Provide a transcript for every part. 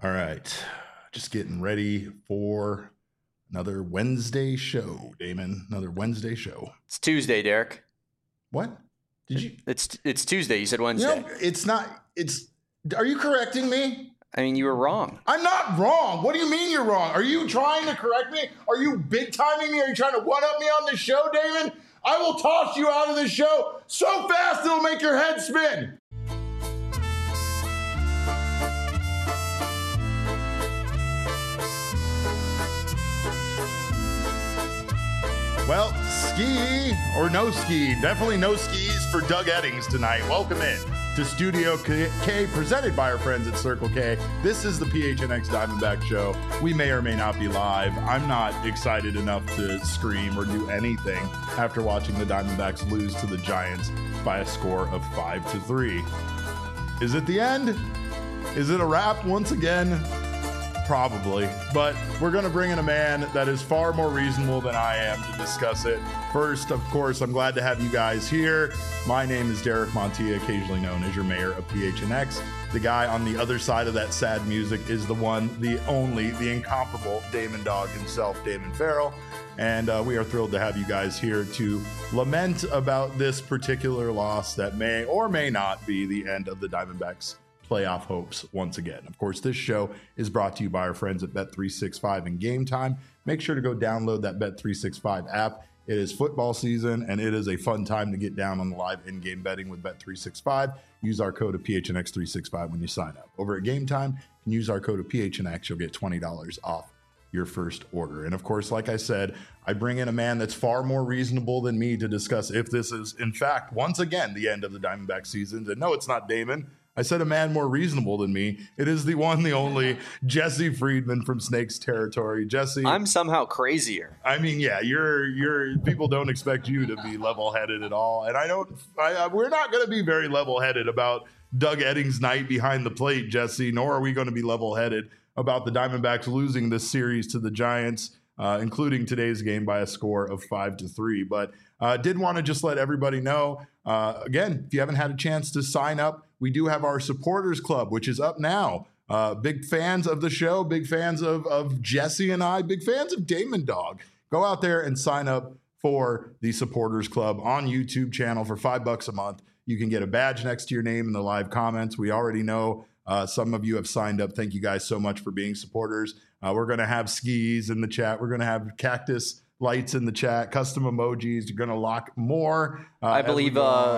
All right. Just getting ready for another Wednesday show, Damon. Another Wednesday show. It's Tuesday, Derek. What? Did you? It's Tuesday. You said Wednesday. It's not. Are you correcting me? I mean, you were wrong. I'm not wrong. What do you mean you're wrong? Are you trying to correct me? Are you big timing me? Are you trying to one-up me on the show, Damon? I will toss you out of the show so fast it'll make your head spin. Well, ski or no ski, definitely no skis for Doug Eddings tonight. Welcome in to Studio K, presented by our friends at Circle K. This is the PHNX Diamondback Show. We may or may not be live. I'm not excited enough to scream or do anything after watching the Diamondbacks lose to the Giants by a score of 5-3. Is it the end? Is it a wrap once again? Probably, but we're going to bring in a man that is far more reasonable than I am to discuss it. First, of course, I'm glad to have you guys here. My name is Derek Montilla, occasionally known as your mayor of PHNX. The guy on the other side of that sad music is the one, the only, the incomparable Damon Dog himself, Damon Farrell. And we are thrilled to have you guys here to lament about this particular loss that may or may not be the end of the Diamondbacks' playoff hopes once again. Of course, this show is brought to you by our friends at Bet365 and Game Time. Make sure to go download that Bet365 app. It is football season, and it is a fun time to get down on the live in-game betting with Bet365. Use our code of PHNX365 when you sign up. Over at Game Time, you can use our code of PHNX. You'll get $20 off your first order. And of course, like I said, I bring in a man that's far more reasonable than me to discuss if this is, in fact, once again, the end of the Diamondback season. And no, it's not Damon. I said a man more reasonable than me. It is the one, the only Jesse Friedman from Snakes Territory. Jesse, I'm somehow crazier. I mean, yeah, you're people don't expect you to be level-headed at all, and we're not going to be very level-headed about Doug Eddings' night behind the plate, Jesse. Nor are we going to be level-headed about the Diamondbacks losing this series to the Giants, including today's game by a score of 5-3. But did want to just let everybody know, again, if you haven't had a chance to sign up, we do have our supporters club, which is up now. Big fans of the show, big fans of Jesse and I, big fans of Damon Dog. Go out there and sign up for the supporters club on YouTube channel for $5 a month. You can get a badge next to your name in the live comments. We already know some of you have signed up. Thank you guys so much for being supporters. We're going to have skis in the chat. We're going to have cactus lights in the chat, custom emojis. You're going to lock more. I believe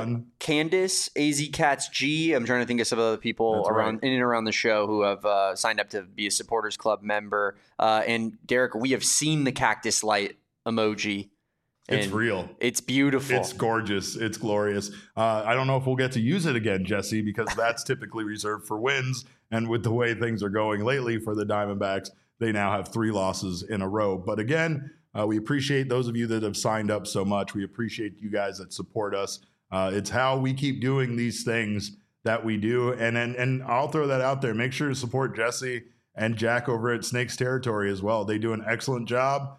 Candace, AZ Cats G. I'm trying to think of some other people in and around the show who have signed up to be a supporters club member. And Derek, we have seen the cactus light emoji. It's real. It's beautiful. It's gorgeous. It's glorious. I don't know if we'll get to use it again, Jesse, because that's typically reserved for wins. And with the way things are going lately for the Diamondbacks, they now have 3 losses in a row. But again, we appreciate those of you that have signed up so much. We appreciate you guys that support us. It's how we keep doing these things that we do. And I'll throw that out there. Make sure to support Jesse and Jack over at Snakes Territory as well. They do an excellent job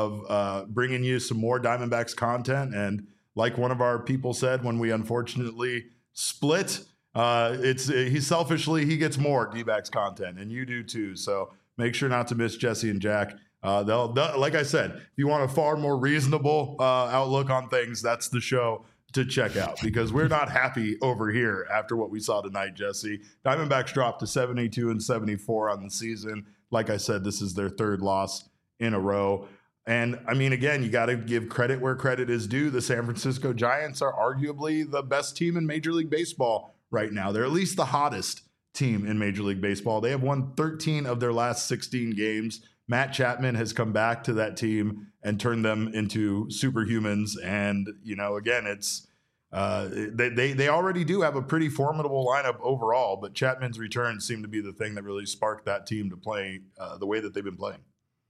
of bringing you some more Diamondbacks content. And like one of our people said when we unfortunately split, he gets more D-backs content, and you do too. So make sure not to miss Jesse and Jack. They'll, like I said, if you want a far more reasonable outlook on things, that's the show to check out, because we're not happy over here after what we saw tonight, Jesse. Diamondbacks dropped to 72-74 on the season. Like I said, this is their 3rd loss in a row. And I mean, again, you got to give credit where credit is due. The San Francisco Giants are arguably the best team in Major League Baseball right now. They're at least the hottest team in Major League Baseball. They have won 13 of their last 16 games. Matt Chapman has come back to that team and turned them into superhumans. And, you know, again, it's they already do have a pretty formidable lineup overall, but Chapman's return seemed to be the thing that really sparked that team to play the way that they've been playing.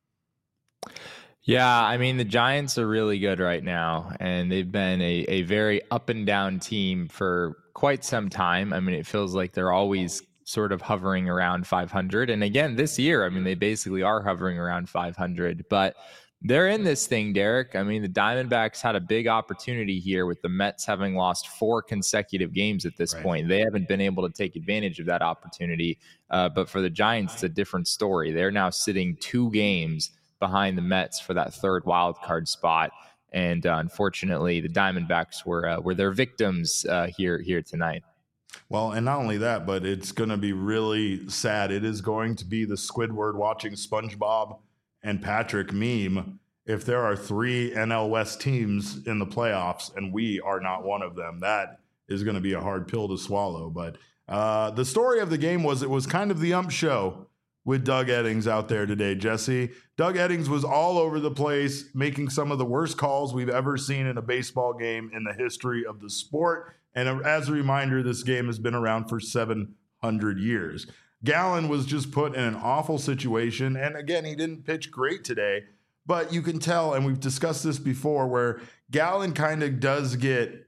Yeah, I mean, the Giants are really good right now, and they've been a very up and down team for quite some time. I mean, it feels like they're always sort of hovering around 500. And again, this year, I mean, they basically are hovering around 500. But They're in this thing, Derek. I mean, the Diamondbacks had a big opportunity here with the Mets having lost 4 consecutive games at this point. They haven't been able to take advantage of that opportunity. But for the Giants, it's a different story. They're now sitting 2 games behind the Mets for that 3rd wild card spot. And unfortunately, the Diamondbacks were their victims here tonight. Well, and not only that, but it's going to be really sad. It is going to be the Squidward watching SpongeBob and Patrick meme if there are 3 NL West teams in the playoffs and we are not one of them. That is going to be a hard pill to swallow. But the story of the game was it was kind of the ump show with Doug Eddings out there today, Jesse. Doug Eddings was all over the place, making some of the worst calls we've ever seen in a baseball game in the history of the sport. And as a reminder, this game has been around for 700 years. Gallen was just put in an awful situation. And again, he didn't pitch great today, but you can tell, and we've discussed this before, where Gallen kind of does get,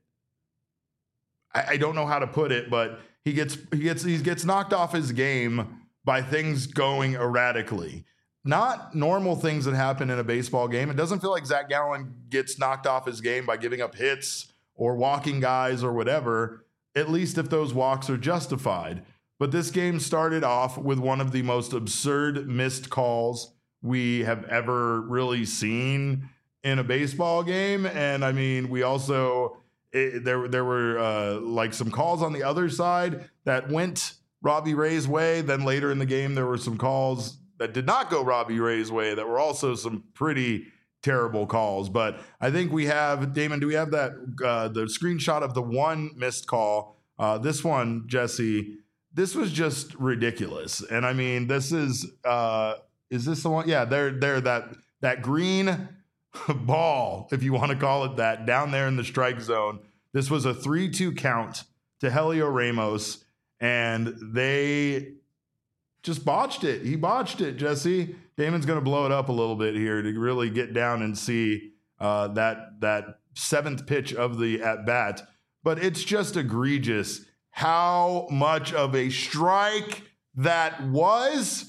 I don't know how to put it, but he gets knocked off his game by things going erratically. Not normal things that happen in a baseball game. It doesn't feel like Zach Gallen gets knocked off his game by giving up hits or walking guys or whatever, at least if those walks are justified. But this game started off with one of the most absurd missed calls we have ever really seen in a baseball game. And I mean, we also, there were like some calls on the other side that went Robbie Ray's way. Then later in the game, there were some calls that did not go Robbie Ray's way that were also some pretty terrible calls. But I think we have, Damon, do we have that, the screenshot of the one missed call? This one, Jesse, this was just ridiculous. And I mean, this is this the one? Yeah, there, that green ball, if you want to call it that, down there in the strike zone. This was a 3-2 count to Helio Ramos, and they just botched it. He botched it, Jesse. Damon's going to blow it up a little bit here to really get down and see that 7th pitch of the at-bat. But it's just egregious how much of a strike that was,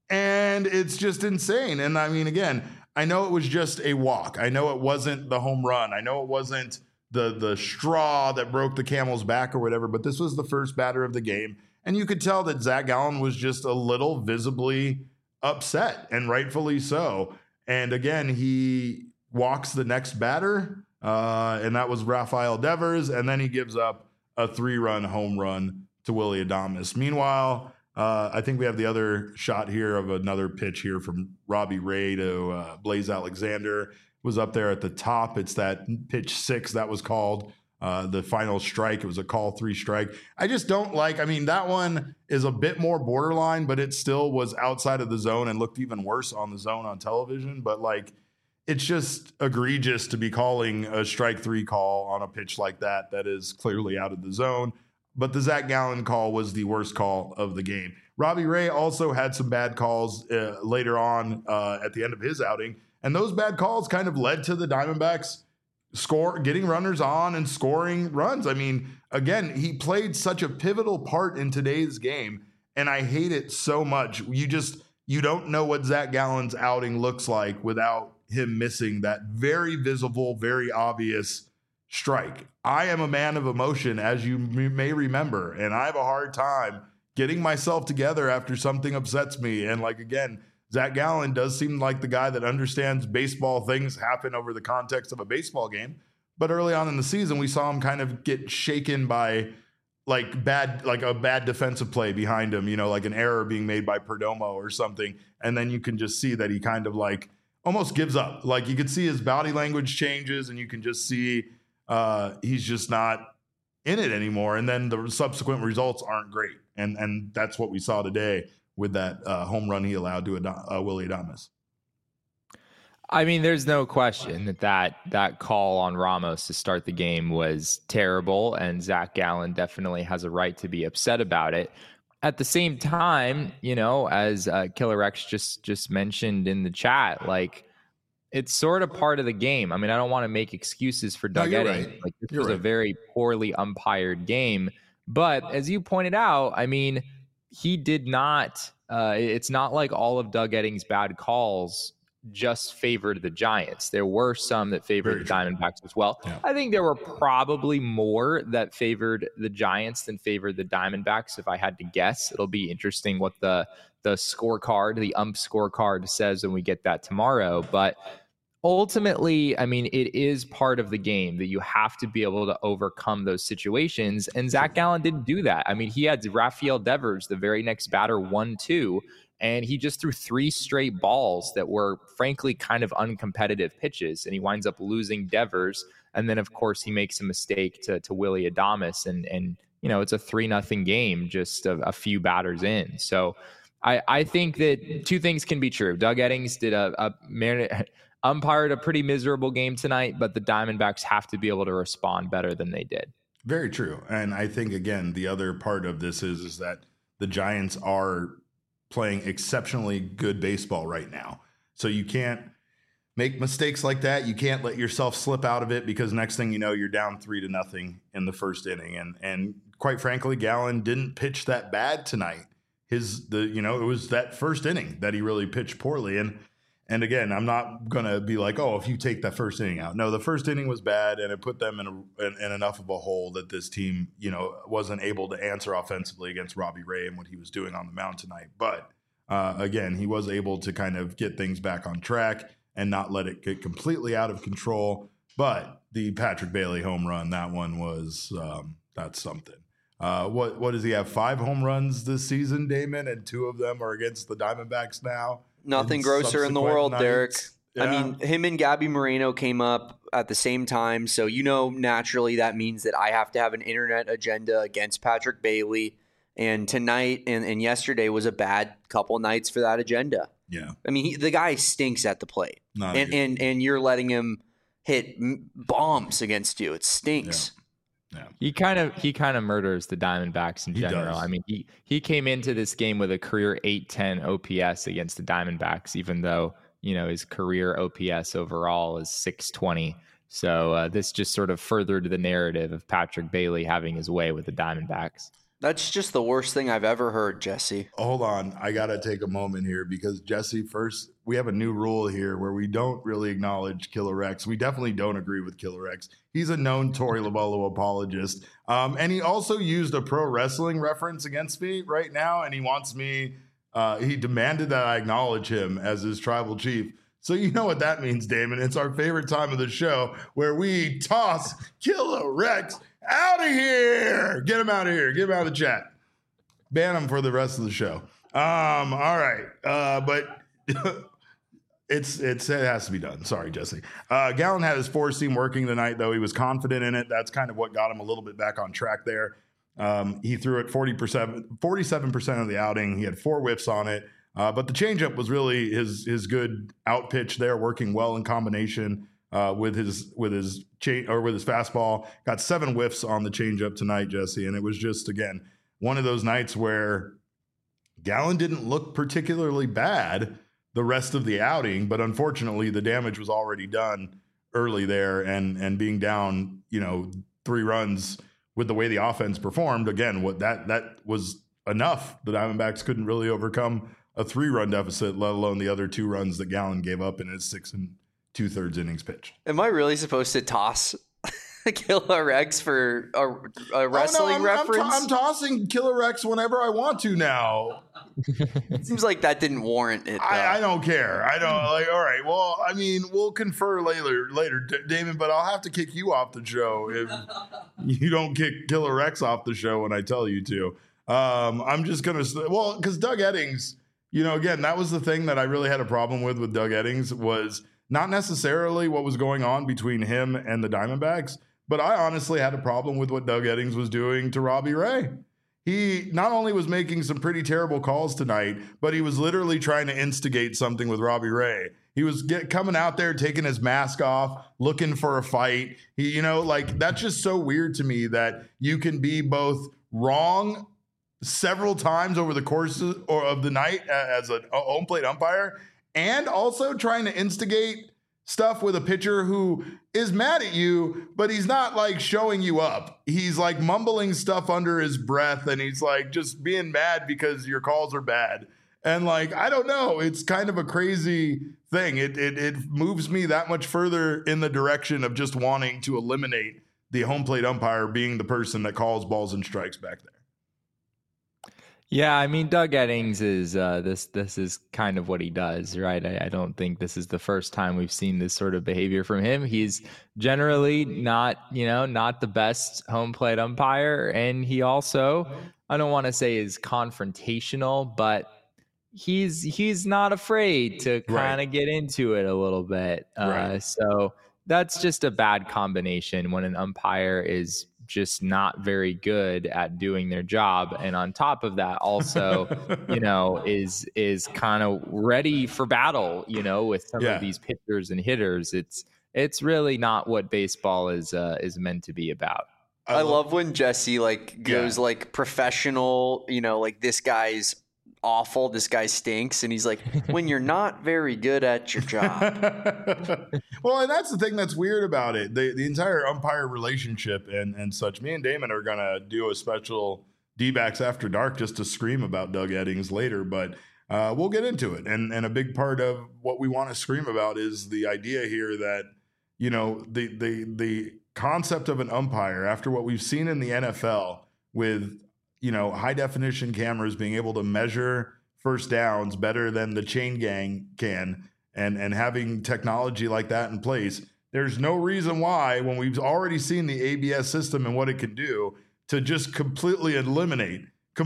and it's just insane. And I mean, again, I know it was just a walk. I know it wasn't the home run. I know it wasn't the straw that broke the camel's back or whatever, but this was the first batter of the game. And you could tell that Zach Gallen was just a little visibly upset, and rightfully so. And again, he walks the next batter, and that was Rafael Devers, and then he gives up a 3-run home run to Willy Adames. Meanwhile, I think we have the other shot here of another pitch here from Robbie Ray to Blaze Alexander. Was up there at the top. It's that pitch 6 that was called the final strike. It was a call 3 strike. I just don't like, I mean, that one is a bit more borderline, but it still was outside of the zone and looked even worse on the zone on television. But like, it's just egregious to be calling a strike 3 call on a pitch like that is clearly out of the zone. But the Zach Gallen call was the worst call of the game. Robbie Ray also had some bad calls later on at the end of his outing. And those bad calls kind of led to the Diamondbacks getting runners on and scoring runs. I mean, again, he played such a pivotal part in today's game, and I hate it so much. You don't know what Zach Gallen's outing looks like without him missing that very visible, very obvious strike. I am a man of emotion, as you may remember, and I have a hard time getting myself together after something upsets me. And like, again, Zach Gallen does seem like the guy that understands baseball things happen over the context of a baseball game. But early on in the season, we saw him kind of get shaken by like a bad defensive play behind him, like an error being made by Perdomo or something. And then you can just see that he kind of like almost gives up. Like you could see his body language changes, and you can just see he's just not in it anymore. And then the subsequent results aren't great. And that's what we saw today with that home run he allowed to Willy Adames. I mean, there's no question that call on Ramos to start the game was terrible, and Zach Gallen definitely has a right to be upset about it. At the same time, as Killer X just mentioned in the chat, like, it's sort of part of the game. I mean, I don't want to make excuses for Doug Eddings. Right. Like, this was a very poorly umpired game. But as you pointed out, I mean, he did not, it's not like all of Doug Eddings' bad calls just favored the Giants. There were some that favored the Diamondbacks as well. Yeah. I think there were probably more that favored the Giants than favored the Diamondbacks, if I had to guess. It'll be interesting what the scorecard, the ump scorecard says when we get that tomorrow. But ultimately, I mean, it is part of the game that you have to be able to overcome those situations. And Zach Gallen didn't do that. I mean, he had Rafael Devers, the very next batter, 1-2. And he just threw 3 straight balls that were, frankly, kind of uncompetitive pitches. And he winds up losing Devers. And then, of course, he makes a mistake to Willy Adames. And you know, it's a 3-0 game just a few batters in. So I think that 2 things can be true. Doug Eddings did umpired a pretty miserable game tonight, but the Diamondbacks have to be able to respond better than they did. Very true. And I think, again, the other part of this is that the Giants are playing exceptionally good baseball right now. So you can't make mistakes like that. You can't let yourself slip out of it, because next thing you know, you're down 3-0 in the first inning. And quite frankly, Gallen didn't pitch that bad tonight. It was that first inning that he really pitched poorly. And again, I'm not going to be like, oh, if you take that first inning out. No, the first inning was bad, and it put them in enough of a hole that this team, wasn't able to answer offensively against Robbie Ray and what he was doing on the mound tonight. But again, he was able to kind of get things back on track and not let it get completely out of control. But the Patrick Bailey home run, that one was that's something. What does he have? 5 home runs this season, Damon, and 2 of them are against the Diamondbacks now. Nothing grosser in the world, Derek. Yeah. I mean, him and Gabby Moreno came up at the same time. So, naturally that means that I have to have an internet agenda against Patrick Bailey. And tonight and yesterday was a bad couple nights for that agenda. Yeah. I mean, the guy stinks at the plate. And you're letting him hit bombs against you. It stinks. Yeah. He kind of murders the Diamondbacks in general. I mean, he came into this game with a career 810 OPS against the Diamondbacks, even though, his career OPS overall is 620. So this just sort of furthered the narrative of Patrick Bailey having his way with the Diamondbacks. That's just the worst thing I've ever heard, Jesse. Hold on. I got to take a moment here because, Jesse, first, we have a new rule here where we don't really acknowledge Killer Rex. We definitely don't agree with Killer Rex. He's a known Torey Lovullo apologist. And he also used a pro wrestling reference against me right now, and he wants me he demanded that I acknowledge him as his tribal chief. So you know what that means, Damon. It's our favorite time of the show where we toss Killer Rex out of here. Get him out of here. Get him out of the chat. Ban him for the rest of the show. All right. But it has to be done. Sorry, Jesse. Gallen had his 4-seam working tonight, though. He was confident in it. That's kind of what got him a little bit back on track there. He threw it 47% of the outing. He had 4 whiffs on it. But the changeup was really his good out pitch there, working well in combination with his fastball. Got 7 whiffs on the changeup tonight, Jesse, and it was just, again, one of those nights where Gallen didn't look particularly bad the rest of the outing, but unfortunately the damage was already done early there, and being down 3 runs with the way the offense performed, again, what that was enough. The Diamondbacks couldn't really overcome a 3-run deficit, let alone the other 2 runs that Gallen gave up in his 6 2/3 innings pitched. Am I really supposed to toss Killer Rex for a wrestling reference? I'm tossing Killer Rex whenever I want to now. It seems like that didn't warrant it. I don't care. I don't all right. Well, I mean, we'll confer later, Damon, but I'll have to kick you off the show if you don't kick Killer Rex off the show when I tell you to. I'm just going to, because Doug Eddings, again, that was the thing that I really had a problem with Doug Eddings, was not necessarily what was going on between him and the Diamondbacks, but I honestly had a problem with what Doug Eddings was doing to Robbie Ray. He not only was making some pretty terrible calls tonight, but he was literally trying to instigate something with Robbie Ray. He was coming out there, taking his mask off, looking for a fight. That's just so weird to me that you can be both wrong several times over the course of the night as a home plate umpire, and also trying to instigate stuff with a pitcher who is mad at you, but he's not showing you up. He's mumbling stuff under his breath, and he's just being mad because your calls are bad. And like, I don't know, it's kind of a crazy thing. It moves me that much further in the direction of just wanting to eliminate the home plate umpire being the person that calls balls and strikes back there. Yeah, I mean, Doug Eddings is this is kind of what he does, right? I don't think this is the first time we've seen this sort of behavior from him. He's generally not the best home plate umpire, and he also, I don't want to say is confrontational, but he's not afraid to kind of get into it a little bit. So that's just a bad combination when an umpire is just not very good at doing their job, and on top of that also is kind of ready for battle with some of these pitchers and hitters. It's really not what baseball is meant to be about. I love when Jesse goes professional, this guy's awful, this guy stinks, and he's like, when you're not very good at your job. Well, and that's the thing that's weird about it, the entire umpire relationship and such. Me and Damon are gonna do a special D-backs After Dark just to scream about Doug Eddings later, but we'll get into it. And a big part of what we want to scream about is the idea here that the concept of an umpire, after what we've seen in the NFL with high definition cameras being able to measure first downs better than the chain gang can, and having technology like that in place, there's no reason why, when we've already seen the ABS system and what it can do, to just completely eliminate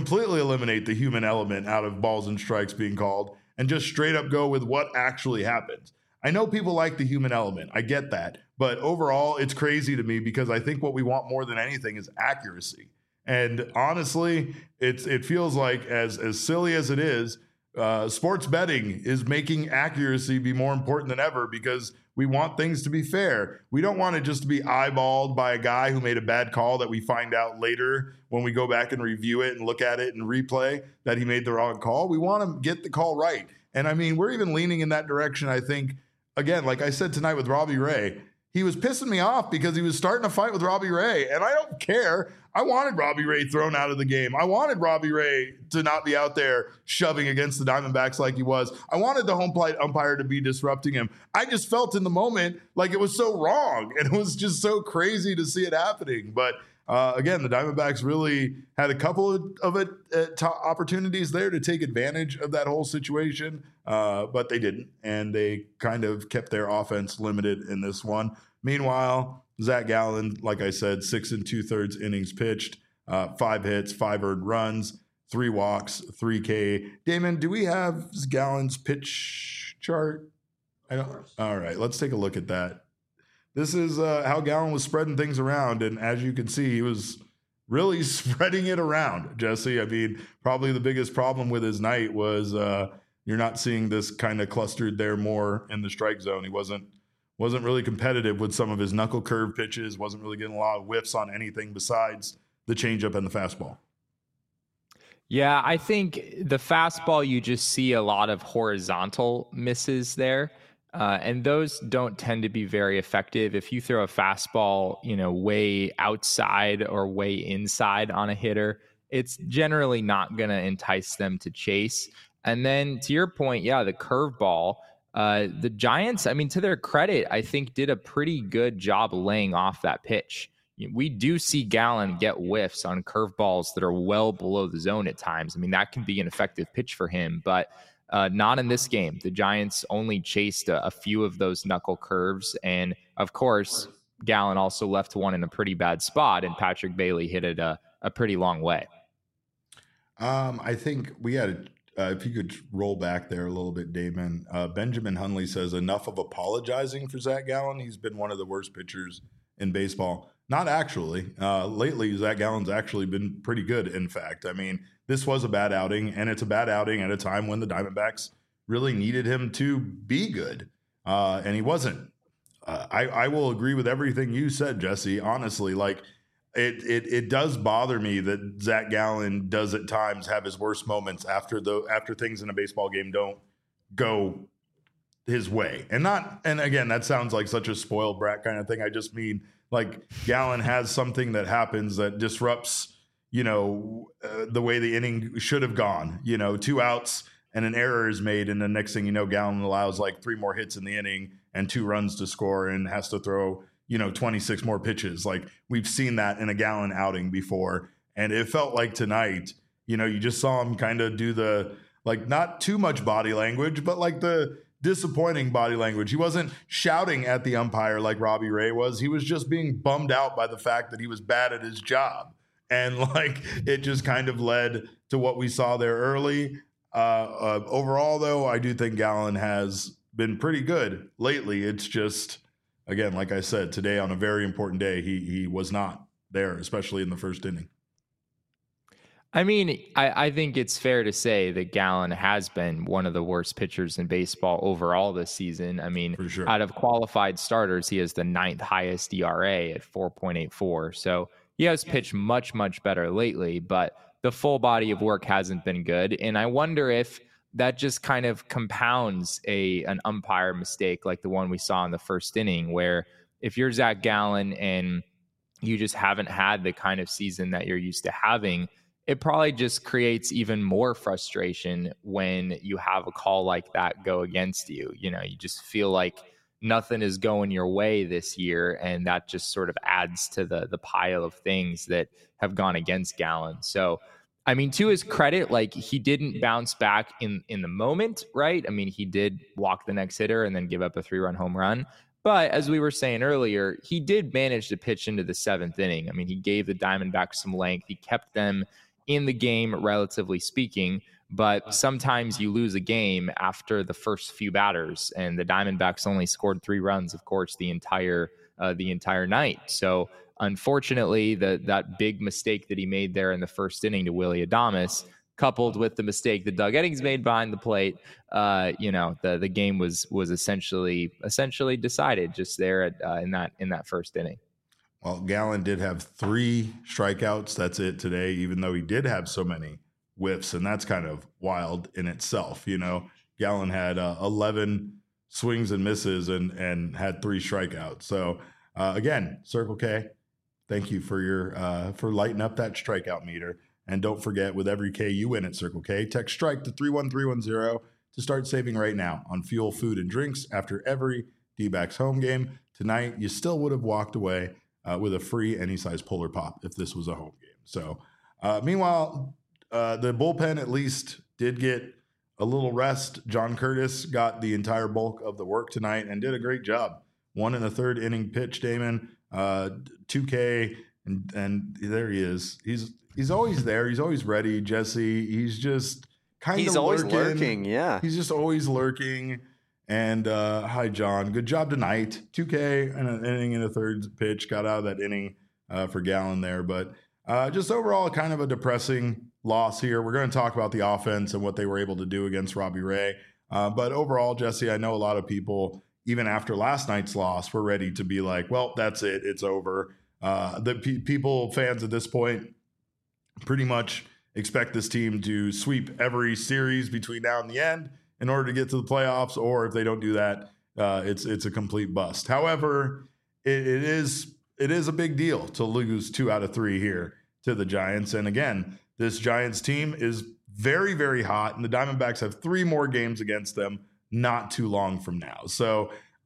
the human element out of balls and strikes being called and just straight up go with what actually happens. I know people like the human element. I get that. But overall, it's crazy to me because I think what we want more than anything is accuracy. And honestly, it feels like, as silly as it is, sports betting is making accuracy be more important than ever because we want things to be fair. We don't want it just to be eyeballed by a guy who made a bad call that we find out later when we go back and review it and look at it and replay that he made the wrong call. We want to get the call right. And I mean, we're even leaning in that direction, I think. Again, like I said tonight with Robbie Ray, he was pissing me off because he was starting a fight with Robbie Ray, and I don't care. I wanted Robbie Ray thrown out of the game. I wanted Robbie Ray to not be out there shoving against the Diamondbacks like he was. I wanted the home plate umpire to be disrupting him. I just felt in the moment like it was so wrong, and it was just so crazy to see it happening. But again, the Diamondbacks really had a couple of opportunities there to take advantage of that whole situation, but they didn't, and they kind of kept their offense limited in this one. Meanwhile, Zach Gallen, like I said, 6 2/3 innings pitched, 5 hits, 5 earned runs, 3 walks, 3 K. Damon, do we have Gallen's pitch chart? I don't. All right, let's take a look at that. This is how Gallen was spreading things around, and as you can see, he was really spreading it around, Jesse. I mean, probably the biggest problem with his night was you're not seeing this kind of clustered there more in the strike zone. He wasn't really competitive with some of his knuckle curve pitches, wasn't really getting a lot of whiffs on anything besides the changeup and the fastball. Yeah, I think the fastball, you just see a lot of horizontal misses there. And those don't tend to be very effective. If you throw a fastball, way outside or way inside on a hitter, it's generally not going to entice them to chase. And then to your point, the curveball, the Giants, I mean, to their credit, I think did a pretty good job laying off that pitch. We do see Gallen get whiffs on curveballs that are well below the zone at times. I mean, that can be an effective pitch for him, but not in this game. The Giants only chased a few of those knuckle curves. And of course, Gallen also left one in a pretty bad spot, and Patrick Bailey hit it a pretty long way. I think we had, if you could roll back there a little bit, Damon. Benjamin Hunley says, enough of apologizing for Zach Gallen. He's been one of the worst pitchers in baseball. Not actually. Lately, Zach Gallen's actually been pretty good, in fact. I mean, this was a bad outing, and it's a bad outing at a time when the Diamondbacks really needed him to be good, and he wasn't. I will agree with everything you said, Jesse. Honestly, like it does bother me that Zach Gallen does at times have his worst moments after things in a baseball game don't go his way. And again, that sounds like such a spoiled brat kind of thing. I just mean, like, Gallen has something that happens that disrupts, the way the inning should have gone. 2 outs and an error is made, and the next thing you know, Gallen allows like 3 more hits in the inning and 2 runs to score and has to throw, 26 more pitches. Like, we've seen that in a Gallen outing before. And it felt like tonight, you just saw him kind of do the, like, not too much body language, but like the disappointing body language. He wasn't shouting at the umpire like Robbie Ray was. He was just being bummed out by the fact that he was bad at his job. And like, it just kind of led to what we saw there early. Overall, though, I do think Gallen has been pretty good lately. It's just, again, like I said, today on a very important day, he was not there, especially in the first inning. I mean, I think it's fair to say that Gallen has been one of the worst pitchers in baseball overall this season. I mean, for sure. Out of qualified starters, he has the 9th highest ERA at 4.84. So he has pitched much, much better lately, but the full body of work hasn't been good. And I wonder if that just kind of compounds an umpire mistake like the one we saw in the first inning, where if you're Zach Gallen and you just haven't had the kind of season that you're used to having, it probably just creates even more frustration when you have a call like that go against you. You just feel like nothing is going your way this year, and that just sort of adds to the pile of things that have gone against Gallen. So, I mean, to his credit, like, he didn't bounce back in the moment, right? I mean, he did walk the next hitter and then give up a 3-run home run. But as we were saying earlier, he did manage to pitch into the 7th inning. I mean, he gave the Diamondbacks some length. He kept them in the game, relatively speaking. But sometimes you lose a game after the first few batters, and the Diamondbacks only scored 3 runs, of course, the entire night. So unfortunately, that big mistake that he made there in the first inning to Willy Adames, coupled with the mistake that Doug Eddings made behind the plate, the game was essentially decided just there in that first inning. Well, Gallen did have 3 strikeouts. That's it today, even though he did have so many whiffs, and that's kind of wild in itself. Gallen had 11 swings and misses and had 3 strikeouts. So again, Circle K, thank you for your for lighting up that strikeout meter. And don't forget, with every K you win at Circle K, text STRIKE to 31310 to start saving right now on fuel, food, and drinks after every D-backs home game. Tonight, you still would have walked away with a free any size Polar Pop if this was a home game. So meanwhile, the bullpen at least did get a little rest. John Curtis got the entire bulk of the work tonight and did a great job. 1 1/3 inning pitch, Damon, 2K, and there he is. He's always there. He's always ready, Jesse. He's just kind of always lurking. Yeah, he's just always lurking. And hi, John. Good job tonight. 2K and an inning and a third pitch. Got out of that inning for Gallen there. But just overall, kind of a depressing loss here. We're going to talk about the offense and what they were able to do against Robbie Ray. But overall, Jesse, I know a lot of people, even after last night's loss, were ready to be like, well, that's it. It's over. Fans at this point pretty much expect this team to sweep every series between now and the end in order to get to the playoffs, or if they don't do that, it's a complete bust. However, it is a big deal to lose 2 out of 3 here to the Giants. And again, this Giants team is very, very hot, and the Diamondbacks have 3 more games against them not too long from now. So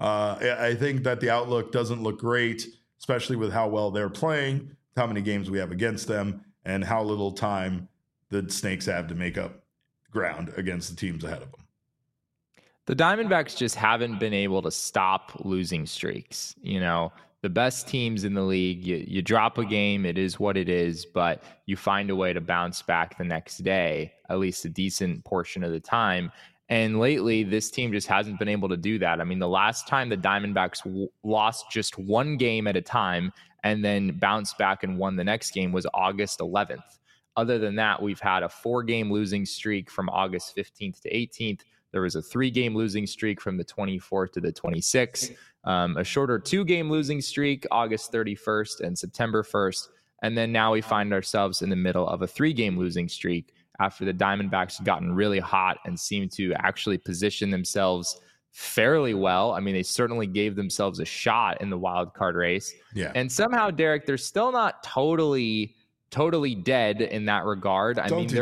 I think that the outlook doesn't look great, especially with how well they're playing, how many games we have against them, and how little time the Snakes have to make up ground against the teams ahead of them. The Diamondbacks just haven't been able to stop losing streaks. The best teams in the league, you drop a game, it is what it is, but you find a way to bounce back the next day, at least a decent portion of the time. And lately, this team just hasn't been able to do that. I mean, the last time the Diamondbacks lost just 1 game at a time and then bounced back and won the next game was August 11th. Other than that, we've had a 4-game losing streak from August 15th to 18th. There was a 3-game losing streak from the 24th to the 26th, a shorter 2-game losing streak, August 31st and September 1st. And then now we find ourselves in the middle of a 3-game losing streak after the Diamondbacks have gotten really hot and seem to actually position themselves fairly well. I mean, they certainly gave themselves a shot in the wild card race. Yeah. And somehow, Derek, they're still not totally totally dead in that regard. I mean, they're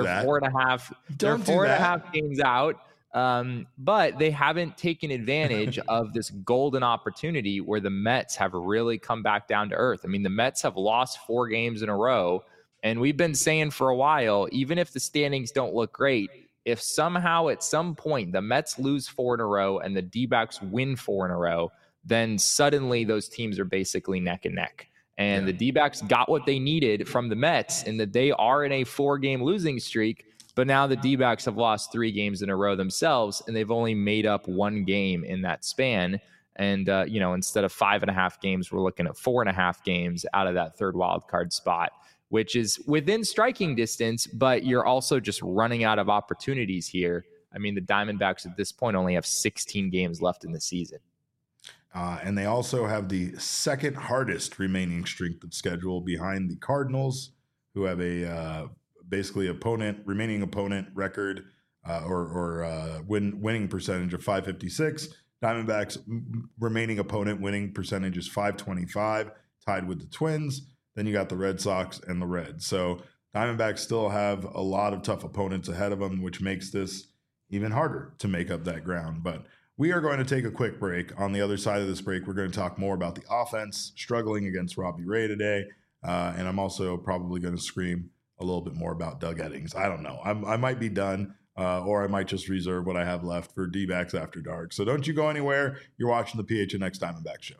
4.5 games out. But they haven't taken advantage of this golden opportunity where the Mets have really come back down to earth. I mean, the Mets have lost 4 games in a row, and we've been saying for a while, even if the standings don't look great, if somehow at some point the Mets lose 4 in a row and the D-backs win 4 in a row, then suddenly those teams are basically neck and neck. And the D-backs got what they needed from the Mets in that they are in a 4-game losing streak. But now the D-backs have lost 3 games in a row themselves, and they've only made up 1 game in that span. And, instead of 5.5 games, we're looking at 4.5 games out of that third wild card spot, which is within striking distance, but you're also just running out of opportunities here. I mean, the Diamondbacks at this point only have 16 games left in the season. And they also have the second hardest remaining strength of schedule behind the Cardinals, who have a basically remaining opponent record winning percentage of .556. Diamondbacks remaining opponent winning percentage is .525, tied with the Twins. Then you got the Red Sox and the Reds. So Diamondbacks still have a lot of tough opponents ahead of them, which makes this even harder to make up that ground. But we are going to take a quick break. On the other side of this break, we're going to talk more about the offense struggling against Robbie Ray today. And I'm also probably going to scream a little bit more about Doug Eddings. I don't know. I might be done, or I might just reserve what I have left for D-backs After Dark. So don't you go anywhere. You're watching the PHNX Diamondback Show.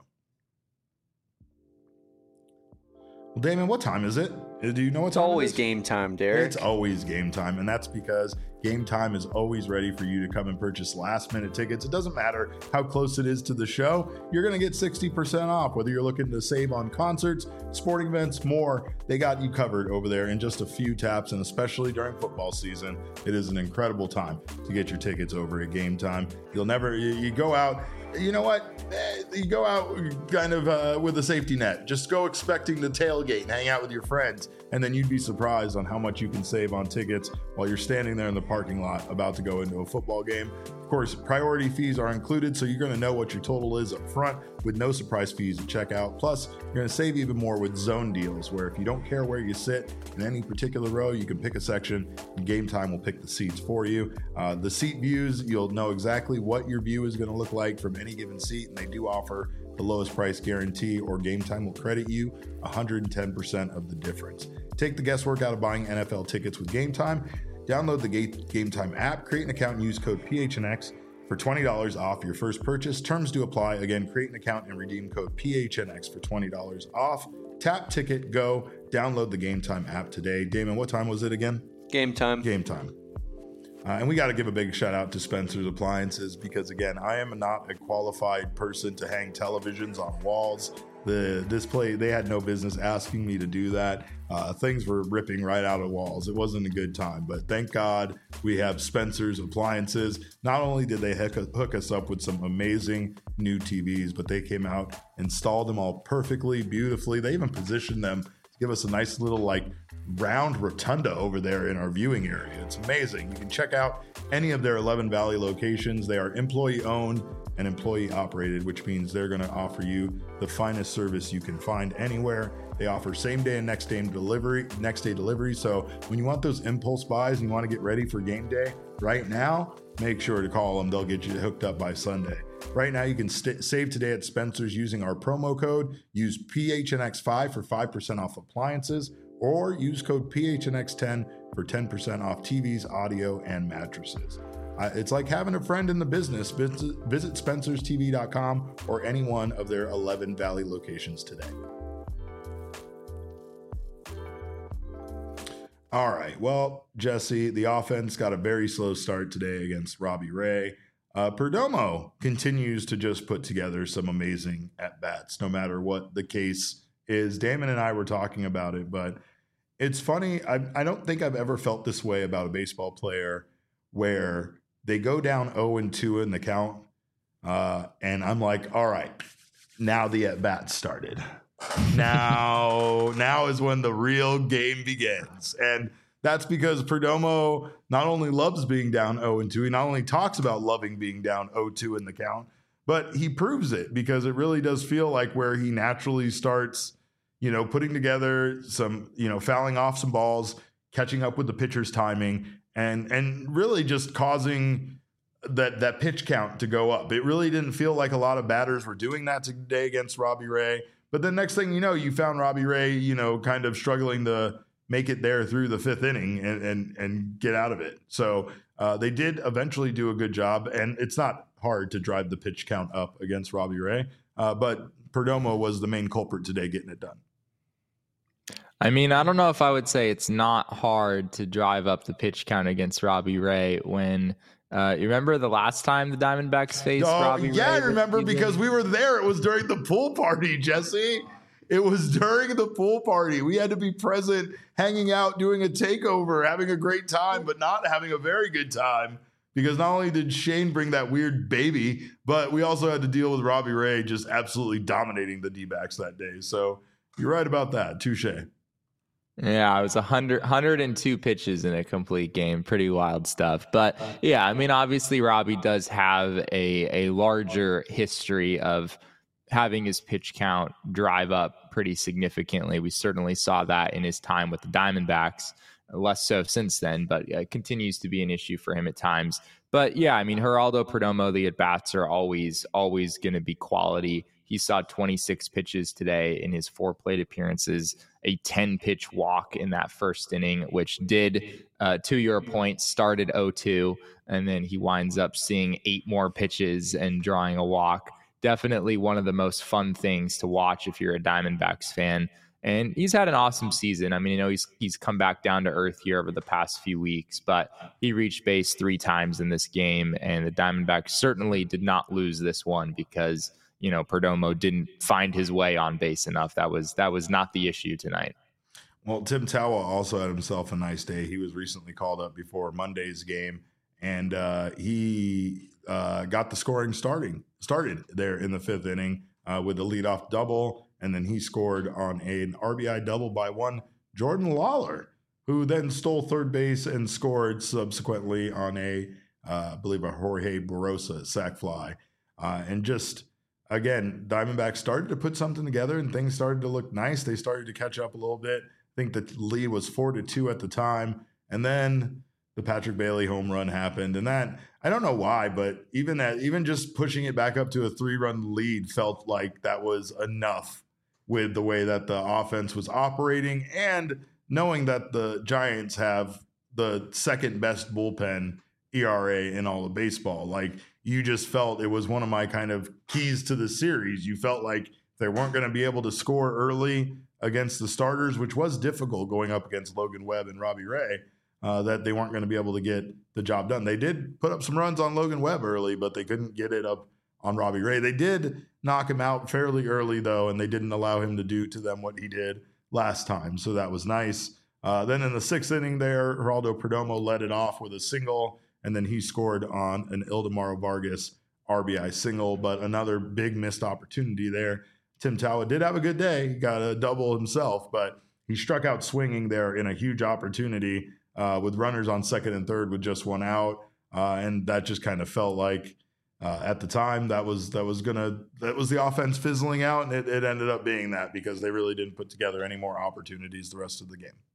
Well, Damon, what time is it? Do you know what time it is? It's always game time, Derek. It's always game time, and that's because Game Time is always ready for you to come and purchase last-minute tickets. It doesn't matter how close it is to the show. You're going to get 60% off, whether you're looking to save on concerts, sporting events, more. They got you covered over there in just a few taps, and especially during football season, it is an incredible time to get your tickets over at Game Time. You go out. You know what? You go out kind of with a safety net. Just go expecting to tailgate and hang out with your friends, and then you'd be surprised on how much you can save on tickets while you're standing there in the parking lot about to go into a football game. Of course, priority fees are included, so you're going to know what your total is up front with no surprise fees at checkout. Plus, you're going to save even more with zone deals, where if you don't care where you sit in any particular row, you can pick a section, and Game Time will pick the seats for you. The seat views, you'll know exactly what your view is going to look like from any given seat, and they do offer the lowest price guarantee, or Game Time will credit you 110% of the difference. Take the guesswork out of buying NFL tickets with Game Time. Download the Game Time app, create an account, and use code PHNX for $20 off your first purchase. Terms do apply. Again, create an account and redeem code PHNX for $20 off. Tap, ticket, go. Download the Game Time app today. Damon, what time was it again? Game time. Game time. And we got to give a big shout out to Spencer's Appliances because, again, I am not a qualified person to hang televisions on walls. They had no business asking me to do that. Things were ripping right out of walls. It wasn't a good time, but thank God we have Spencer's Appliances. Not only did they hook us up with some amazing new TVs, but they came out, installed them all perfectly, beautifully. They even positioned them to give us a nice little round rotunda over there in our viewing area. It's amazing. You can check out any of their 11 Valley locations. They are employee owned and employee operated, which means they're going to offer you the finest service you can find anywhere. They offer same day and next day delivery. So when you want those impulse buys and you want to get ready for game day right now, make sure to call them. They'll get you hooked up by Sunday. Right now, you can save today at Spencer's using our promo code. Use PHNX5 for 5% off appliances, or use code PHNX10 for 10% off TVs, audio, and mattresses. It's like having a friend in the business. Visit SpencersTV.com or any one of their 11 Valley locations today. All right. Well, Jesse, the offense got a very slow start today against Robbie Ray. Perdomo continues to just put together some amazing at-bats, no matter what the case is. Damon and I were talking about it, but it's funny. I don't think I've ever felt this way about a baseball player where they go down 0-2 in the count, and I'm like, all right, now the at-bat started. Now is when the real game begins. And that's because Perdomo not only loves being down 0-2, he not only talks about loving being down 0-2 in the count, but he proves it because it really does feel like where he naturally starts, putting together some, fouling off some balls, catching up with the pitcher's timing, and really just causing that pitch count to go up. It really didn't feel like a lot of batters were doing that today against Robbie Ray. But the next thing you know, you found Robbie Ray, kind of struggling to make it there through the fifth inning and get out of it. So they did eventually do a good job, and it's not hard to drive the pitch count up against Robbie Ray. But Perdomo was the main culprit today getting it done. I mean, I don't know if I would say it's not hard to drive up the pitch count against Robbie Ray when you remember the last time the Diamondbacks faced Robbie Ray? Yeah, I remember because we were there. It was during the pool party, Jesse. It was during the pool party. We had to be present, hanging out, doing a takeover, having a great time, but not having a very good time. Because not only did Shane bring that weird baby, but we also had to deal with Robbie Ray just absolutely dominating the D-backs that day. So you're right about that. Touche. Yeah, it was 102 pitches in a complete game. Pretty wild stuff. But yeah, I mean, obviously Robbie does have a larger history of having his pitch count drive up pretty significantly. We certainly saw that in his time with the Diamondbacks, less so since then, but it continues to be an issue for him at times. But yeah, I mean, Geraldo Perdomo, the at-bats are always going to be quality. He saw 26 pitches today in his 4 plate appearances, a 10-pitch walk in that first inning, which did, to your point, started 0-2, and then he winds up seeing 8 more pitches and drawing a walk. Definitely one of the most fun things to watch if you're a Diamondbacks fan. And he's had an awesome season. I mean, he's come back down to earth here over the past few weeks, but he reached base 3 times in this game, and the Diamondbacks certainly did not lose this one because Perdomo didn't find his way on base enough. That was not the issue tonight. Well, Tim Tawa also had himself a nice day. He was recently called up before Monday's game, and he got the scoring started there in the 5th inning with the leadoff double, and then he scored on an RBI double by one Jordan Lawler, who then stole third base and scored subsequently on I believe a Jorge Barossa sac fly, and just. Again, Diamondbacks started to put something together and things started to look nice. They started to catch up a little bit. I think the lead was 4-2 at the time. And then the Patrick Bailey home run happened. And that, I don't know why, but even just pushing it back up to a 3-run lead felt like that was enough with the way that the offense was operating and knowing that the Giants have the second best bullpen ERA in all of baseball. Like, you just felt it was one of my kind of keys to the series. You felt like they weren't going to be able to score early against the starters, which was difficult going up against Logan Webb and Robbie Ray, that they weren't going to be able to get the job done. They did put up some runs on Logan Webb early, but they couldn't get it up on Robbie Ray. They did knock him out fairly early, though, and they didn't allow him to do to them what he did last time. So that was nice. Then in the 6th inning there, Geraldo Perdomo led it off with a single, and then he scored on an Ildemaro Vargas RBI single, but another big missed opportunity there. Tim Tawa did have a good day. He got a double himself, but he struck out swinging there in a huge opportunity with runners on 2nd and 3rd with just 1 out. And that just kind of felt like at the time that was the offense fizzling out, and it ended up being that because they really didn't put together any more opportunities the rest of the game.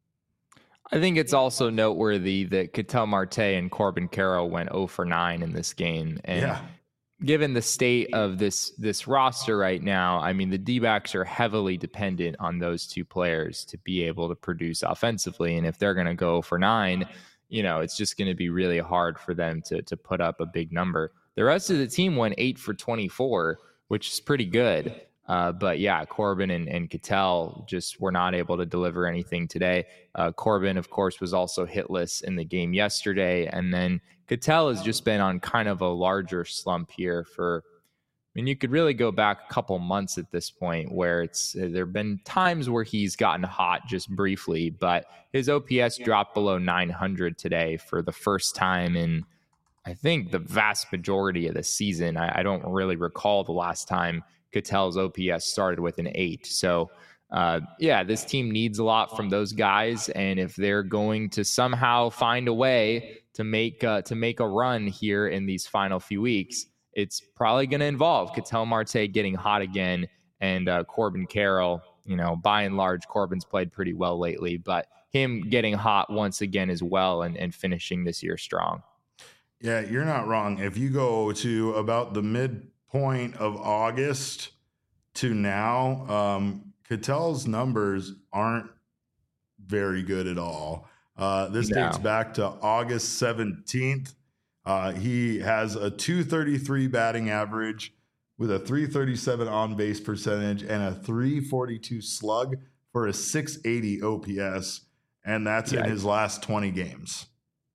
I think it's also noteworthy that Ketel Marte and Corbin Carroll went 0 for 9 in this game. And given the state of this roster right now, I mean, the D-backs are heavily dependent on those 2 players to be able to produce offensively. And if they're going to go 0 for 9, it's just going to be really hard for them to put up a big number. The rest of the team went 8 for 24, which is pretty good. But yeah, Corbin and Ketel just were not able to deliver anything today. Corbin, of course, was also hitless in the game yesterday. And then Ketel has just been on kind of a larger slump here you could really go back a couple months at this point where there have been times where he's gotten hot just briefly, but his OPS dropped below 900 today for the first time in, I think, the vast majority of the season. I don't really recall the last time Ketel's OPS started with an 8. So, this team needs a lot from those guys. And if they're going to somehow find a way to make a run here in these final few weeks, it's probably going to involve Ketel Marte getting hot again and Corbin Carroll by and large, Corbin's played pretty well lately, but him getting hot once again as well and finishing this year strong. Yeah, you're not wrong. If you go to about the midpoint of August to now, Ketel's numbers aren't very good at all. This dates back to August 17th. He has a 233 batting average with a 337 on base percentage and a 342 slug for a 680 OPS. And that's in his last 20 games.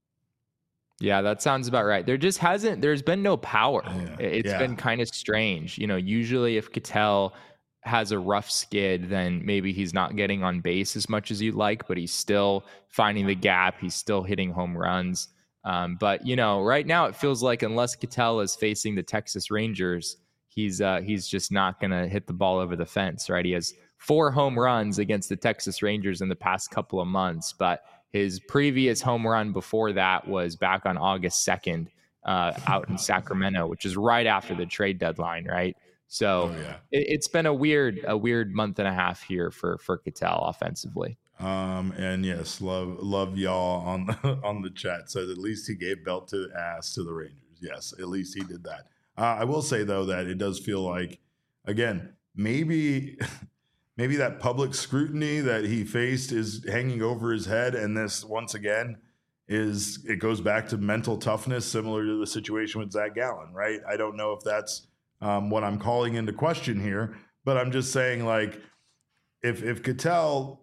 Yeah, that sounds about right. There's been no power. It's been kind of strange. Usually if Ketel has a rough skid, then maybe he's not getting on base as much as you'd like, but he's still finding the gap. He's still hitting home runs. But right now it feels like unless Ketel is facing the Texas Rangers, he's just not going to hit the ball over the fence, right? He has 4 home runs against the Texas Rangers in the past couple of months, but his previous home run before that was back on August 2nd out in Sacramento, which is right after the trade deadline, right? So it's been a weird month and a half here for Ketel offensively. And yes, love y'all on the chat. Says at least he gave belt to ass to the Rangers. Yes, at least he did that. I will say though that it does feel like, again, maybe that public scrutiny that he faced is hanging over his head, and this once again it goes back to mental toughness, similar to the situation with Zach Gallen, right? I don't know if that's what I'm calling into question here, but I'm just saying, like, if Ketel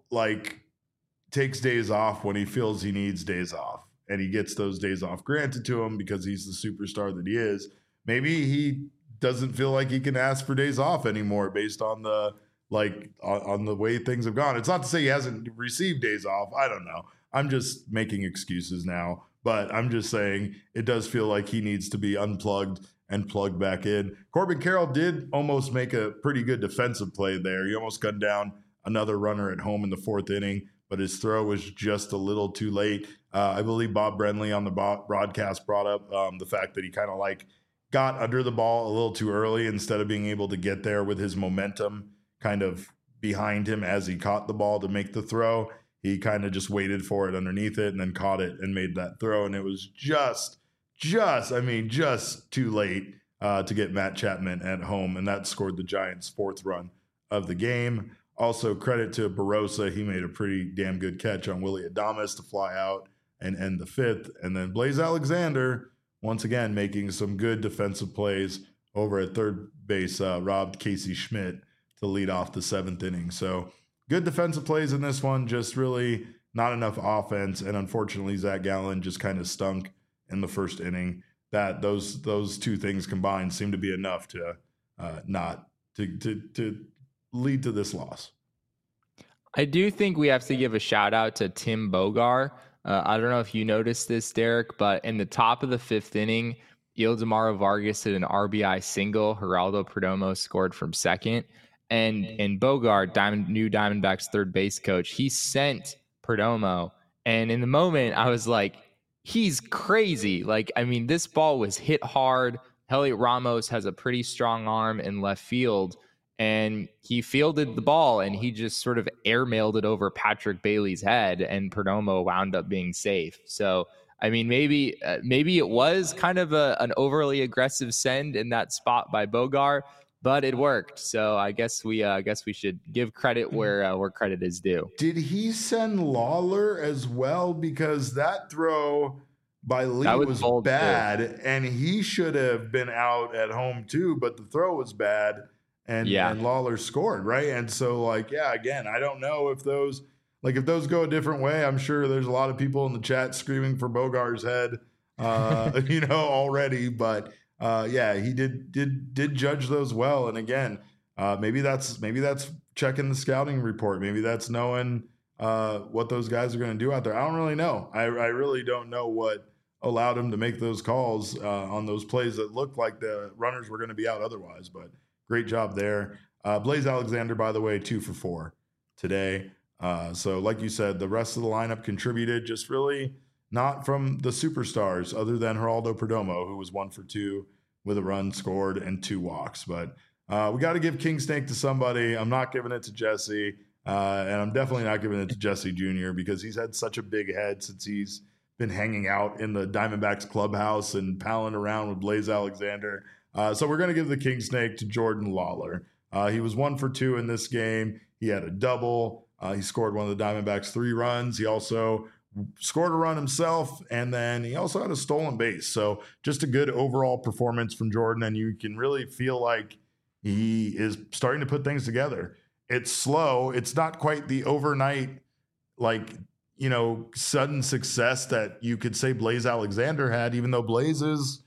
takes days off when he feels he needs days off, and he gets those days off granted to him because he's the superstar that he is, maybe he doesn't feel like he can ask for days off anymore based on the on the way things have gone. It's not to say he hasn't received days off. I don't know. I'm just making excuses now, but I'm just saying it does feel like he needs to be unplugged and plugged back in. Corbin Carroll did almost make a pretty good defensive play there. He almost gunned down another runner at home in the 4th inning, but his throw was just a little too late. I believe Bob Brenly on the broadcast brought up the fact that he kind of got under the ball a little too early instead of being able to get there with his momentum kind of behind him as he caught the ball to make the throw. He kind of just waited for it underneath it and then caught it and made that throw. And it was just too late to get Matt Chapman at home. And that scored the Giants' 4th run of the game. Also, credit to Barossa. He made a pretty damn good catch on Willy Adames to fly out and end the 5th. And then Blaze Alexander, once again, making some good defensive plays over at third base, robbed Casey Schmidt to lead off the 7th inning. So good defensive plays in this one, just really not enough offense. And unfortunately, Zach Gallen just kind of stunk in the 1st inning. That those 2 things combined seem to be enough to lead to this loss. I do think we have to give a shout out to Tim Bogar. I don't know if you noticed this, Derek, but in the top of the 5th inning, Ildemaro Vargas hit an RBI single. Geraldo Perdomo scored from second. And Bogart, new Diamondbacks third base coach, he sent Perdomo. And in the moment, I was like, he's crazy. This ball was hit hard. Heliot Ramos has a pretty strong arm in left field. And he fielded the ball, and he just sort of airmailed it over Patrick Bailey's head, and Perdomo wound up being safe. So, maybe it was kind of an overly aggressive send in that spot by Bogart, but it worked. So I guess we should give credit where credit is due. Did he send Lawler as well? Because that throw by Lee was bad, and he should have been out at home too. But the throw was bad, and Lawler scored, right? And so, again, I don't know if those go a different way. I'm sure there's a lot of people in the chat screaming for Bogart's head, already, but. He did judge those well. And again, maybe that's checking the scouting report. Maybe that's knowing what those guys are going to do out there. I don't really know. I really don't know what allowed him to make those calls on those plays that looked like the runners were going to be out otherwise. But great job there. Blaze Alexander, by the way, 2 for 4 today. So like you said, the rest of the lineup contributed, just really not from the superstars other than Geraldo Perdomo, who was 1 for 2 with a run scored and 2 walks. But We got to give King Snake to somebody. I'm not giving it to Jesse. And I'm definitely not giving it to Jesse Jr. because he's had such a big head since he's been hanging out in the Diamondbacks clubhouse and palling around with Blaze Alexander. So we're going to give the King Snake to Jordan Lawlar. He was 1 for 2 in this game. He had a double. He scored one of the Diamondbacks 3 runs. He also scored a run himself, and then he also had a stolen base. So just a good overall performance from Jordan, and you can really feel like he is starting to put things together. It's slow. It's not quite the overnight, sudden success that you could say Blaze Alexander had, even though Blaze, his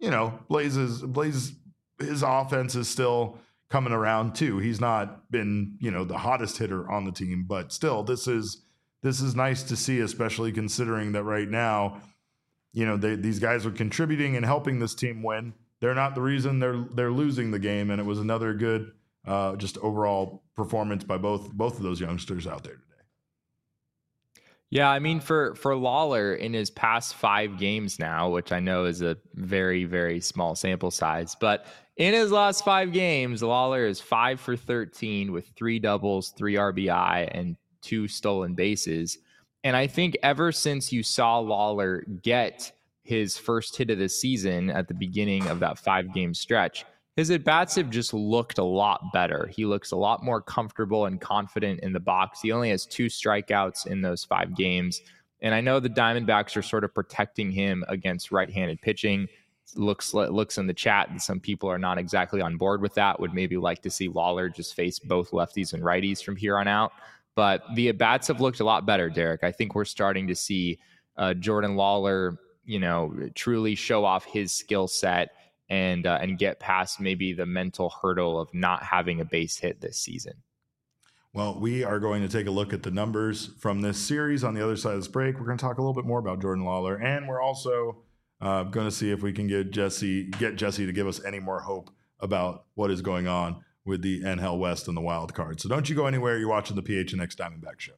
offense is still coming around too. He's not been, the hottest hitter on the team, but still this is nice to see, especially considering that right now, these guys are contributing and helping this team win. They're not the reason they're losing the game. And it was another good, just overall performance by both of those youngsters out there today. Yeah, I mean, for Lawlar in his past 5 games now, which I know is a very, very small sample size, but in his last 5 games, Lawlar is 5 for 13 with 3 doubles, 3 RBI, and 2 stolen bases. And I think ever since you saw Lawlar get his first hit of the season at the beginning of that 5-game stretch, his at-bats have just looked a lot better. He looks a lot more comfortable and confident in the box. He only has 2 strikeouts in those 5 games. And I know the Diamondbacks are sort of protecting him against right-handed pitching. Looks in the chat that some people are not exactly on board with that, would maybe like to see Lawlar just face both lefties and righties from here on out. But the at-bats have looked a lot better, Derek. I think we're starting to see Jordan Lawlar, truly show off his skill set and get past maybe the mental hurdle of not having a base hit this season. Well, we are going to take a look at the numbers from this series on the other side of this break. We're going to talk a little bit more about Jordan Lawlar, and we're also going to see if we can get Jesse to give us any more hope about what is going on with the NL West and the wild card. So don't you go anywhere. You're watching the PHNX Diamondback Show.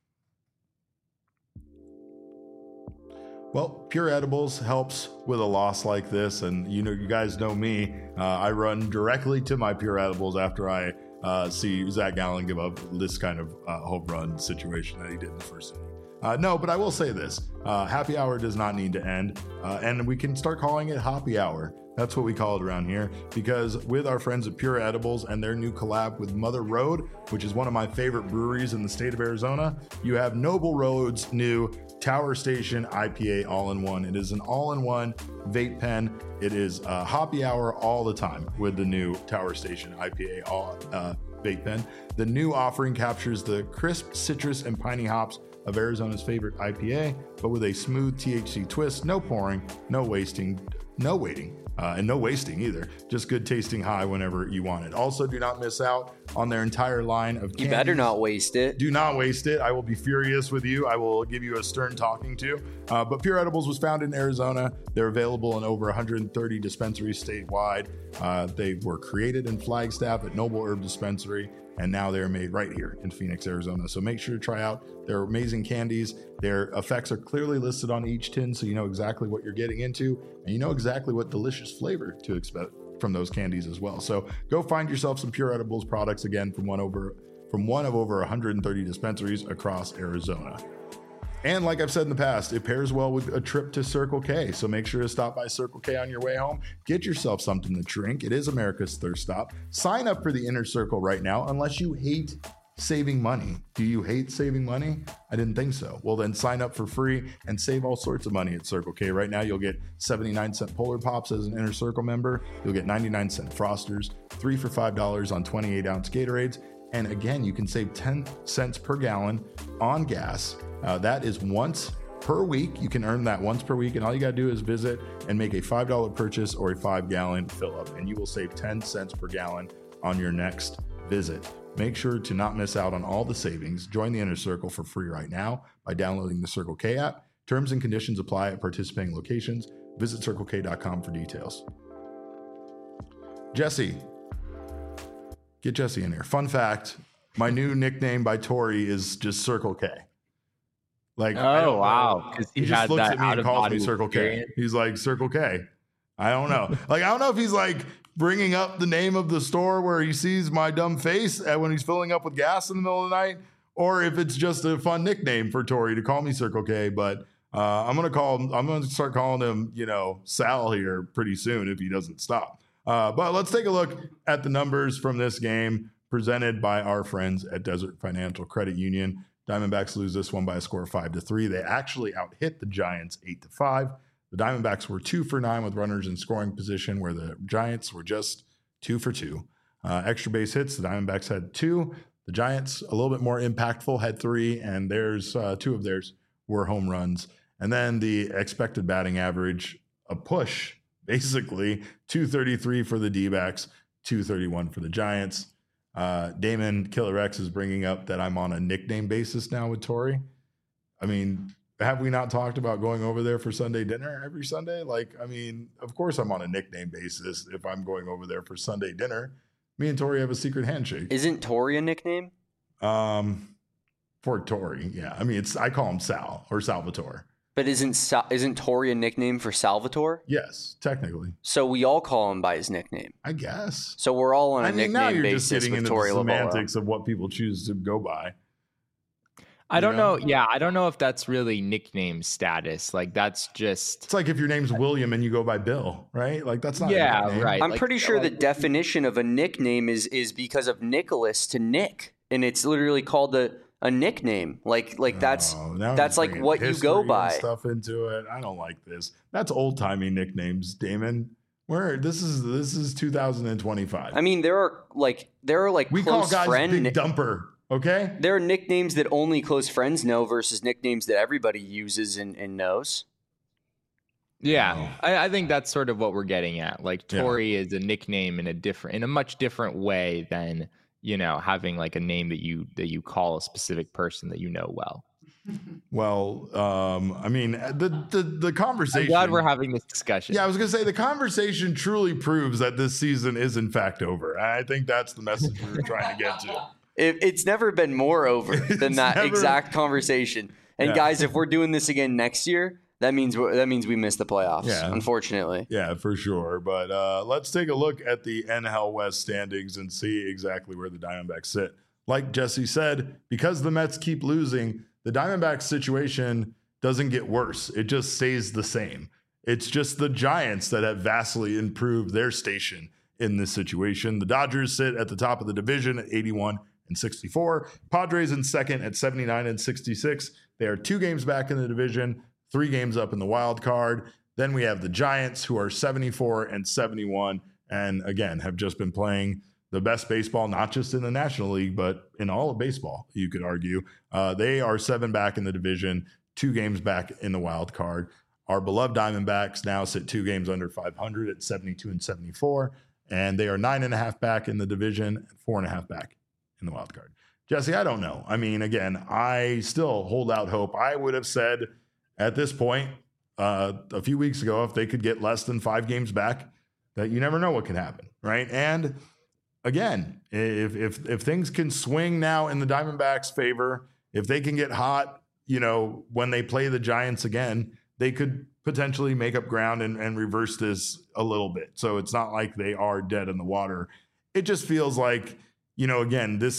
Well, Pure Edibles helps with a loss like this. And, you guys know me. I run directly to my Pure Edibles after I see Zach Gallen give up this kind of home run situation that he did in the first inning. No, but I will say this. Happy hour does not need to end. And we can start calling it Hoppy Hour. That's what we call it around here, because with our friends at Pure Edibles and their new collab with Mother Road, which is one of my favorite breweries in the state of Arizona, you have Noble Road's new Tower Station IPA all-in-one. It is an all-in-one vape pen. It is Hoppy Hour all the time with the new Tower Station IPA vape pen. The new offering captures the crisp citrus and piney hops of Arizona's favorite IPA, but with a smooth THC twist. No pouring, no waiting, and no wasting either. Just good tasting high whenever you want it. Also, do not miss out on their entire line of candies. You better not waste it. Do not waste it. I will be furious with you. I will give you a stern talking to. But Pure Edibles was founded in Arizona. They're available in over 130 dispensaries statewide. They were created in Flagstaff at Noble Herb Dispensary, and now they're made right here in Phoenix, Arizona. So make sure to try out their amazing candies. Their effects are clearly listed on each tin, so you know exactly what you're getting into, and you know exactly what delicious flavor to expect from those candies as well. So go find yourself some Pure Edibles products, again, from one of over 130 dispensaries across Arizona. And like I've said in the past, it pairs well with a trip to Circle K. So make sure to stop by Circle K on your way home. Get yourself something to drink. It is America's thirst stop. Sign up for the Inner Circle right now, unless you hate saving money. Do you hate saving money? I didn't think so. Well, then sign up for free and save all sorts of money at Circle K. Right now, you'll get 79-cent Polar Pops as an Inner Circle member. You'll get 99-cent Frosters, 3 for $5 on 28-ounce Gatorades. And again, you can save 10 cents per gallon on gas. That is once per week. You can earn that once per week, and all you got to do is visit and make a $5 purchase or a 5-gallon fill up, and you will save 10 cents per gallon on your next visit. Make sure to not miss out on all the savings. Join the Inner Circle for free right now by downloading the Circle K app. Terms and conditions apply at participating locations. Visit CircleK.com for details. Jesse. Get Jesse in here. Fun fact, my new nickname by Tori is just Circle K. Like, oh, wow. He just looks at me and calls me Circle K. He's like, Circle K. I don't know. Like, I don't know if he's like bringing up the name of the store where he sees my dumb face when he's filling up with gas in the middle of the night, or if it's just a fun nickname for Tori to call me Circle K. But I'm gonna start calling him, Sal here pretty soon if he doesn't stop. But let's take a look at the numbers from this game presented by our friends at Desert Financial Credit Union. Diamondbacks lose this one by a score of 5-3. They actually out-hit the Giants 8-5. The Diamondbacks were 2 for 9 with runners in scoring position, where the Giants were just 2 for 2. Extra base hits, the Diamondbacks had 2. The Giants, a little bit more impactful, had 3, and there's 2 of theirs were home runs. And then the expected batting average, a push, basically, 233 for the D-backs, 231 for the Giants. Damon Killer X is bringing up that I'm on a nickname basis now with Tori. I mean, have we not talked about going over there for Sunday dinner every Sunday? Of course I'm on a nickname basis if I'm going over there for Sunday dinner. Me and Tori have a secret handshake. Isn't Tori a nickname? For Tori, yeah. I call him Sal or Salvatore. But isn't Tori a nickname for Salvatore? Yes, technically. So we all call him by his nickname, I guess. So we're all on a nickname now you're basis just getting with into Tori the semantics Lobola. of what people choose to go by. I don't know. Yeah, I don't know if that's really nickname status. Like, that's just... It's like if your name's William and you go by Bill, right? Like, that's not a nickname. Right. I'm pretty sure the definition of a nickname is because of Nicholas to Nick, and it's literally called a nickname. Like that's like what you go by. Stuff into it. I don't like this. That's old timey nicknames, Damon. This is 2025. I mean, there are we close call guys friend Big Dumper. Okay. There are nicknames that only close friends know versus nicknames that everybody uses and knows. Yeah, I think that's sort of what we're getting at. Like, Tori is a nickname in a much different way than, having like a name that you call a specific person that you know well. Well, the conversation. I'm glad we're having this discussion. Yeah, I was going to say the conversation truly proves that this season is in fact over. I think that's the message we were trying to get to. It's never been more over than that exact conversation. And guys, if we're doing this again next year, that means we missed the playoffs, unfortunately. Yeah, for sure. But let's take a look at the NL West standings and see exactly where the Diamondbacks sit. Like Jesse said, because the Mets keep losing, the Diamondbacks situation doesn't get worse. It just stays the same. It's just the Giants that have vastly improved their station in this situation. The Dodgers sit at the top of the division at 81-64. Padres in second at 79-66. They are 2 games back in the division, 3 games up in the wild card. Then we have the Giants, who are 74-71, and again have just been playing the best baseball, not just in the National League, but in all of baseball, you could argue. They are 7 back in the division, 2 games back in the wild card. Our beloved Diamondbacks now sit 2 games under 500 at 72-74, and they are 9.5 back in the division, 4.5 back in the wild card. Jesse, I don't know. Again, I still hold out hope. I would have said at this point a few weeks ago, if they could get less than 5 games back, that you never know what can happen, right? And again, if things can swing now in the Diamondbacks' favor, if they can get hot, when they play the Giants again, they could potentially make up ground and reverse this a little bit. So it's not like they are dead in the water. It just feels like, again, this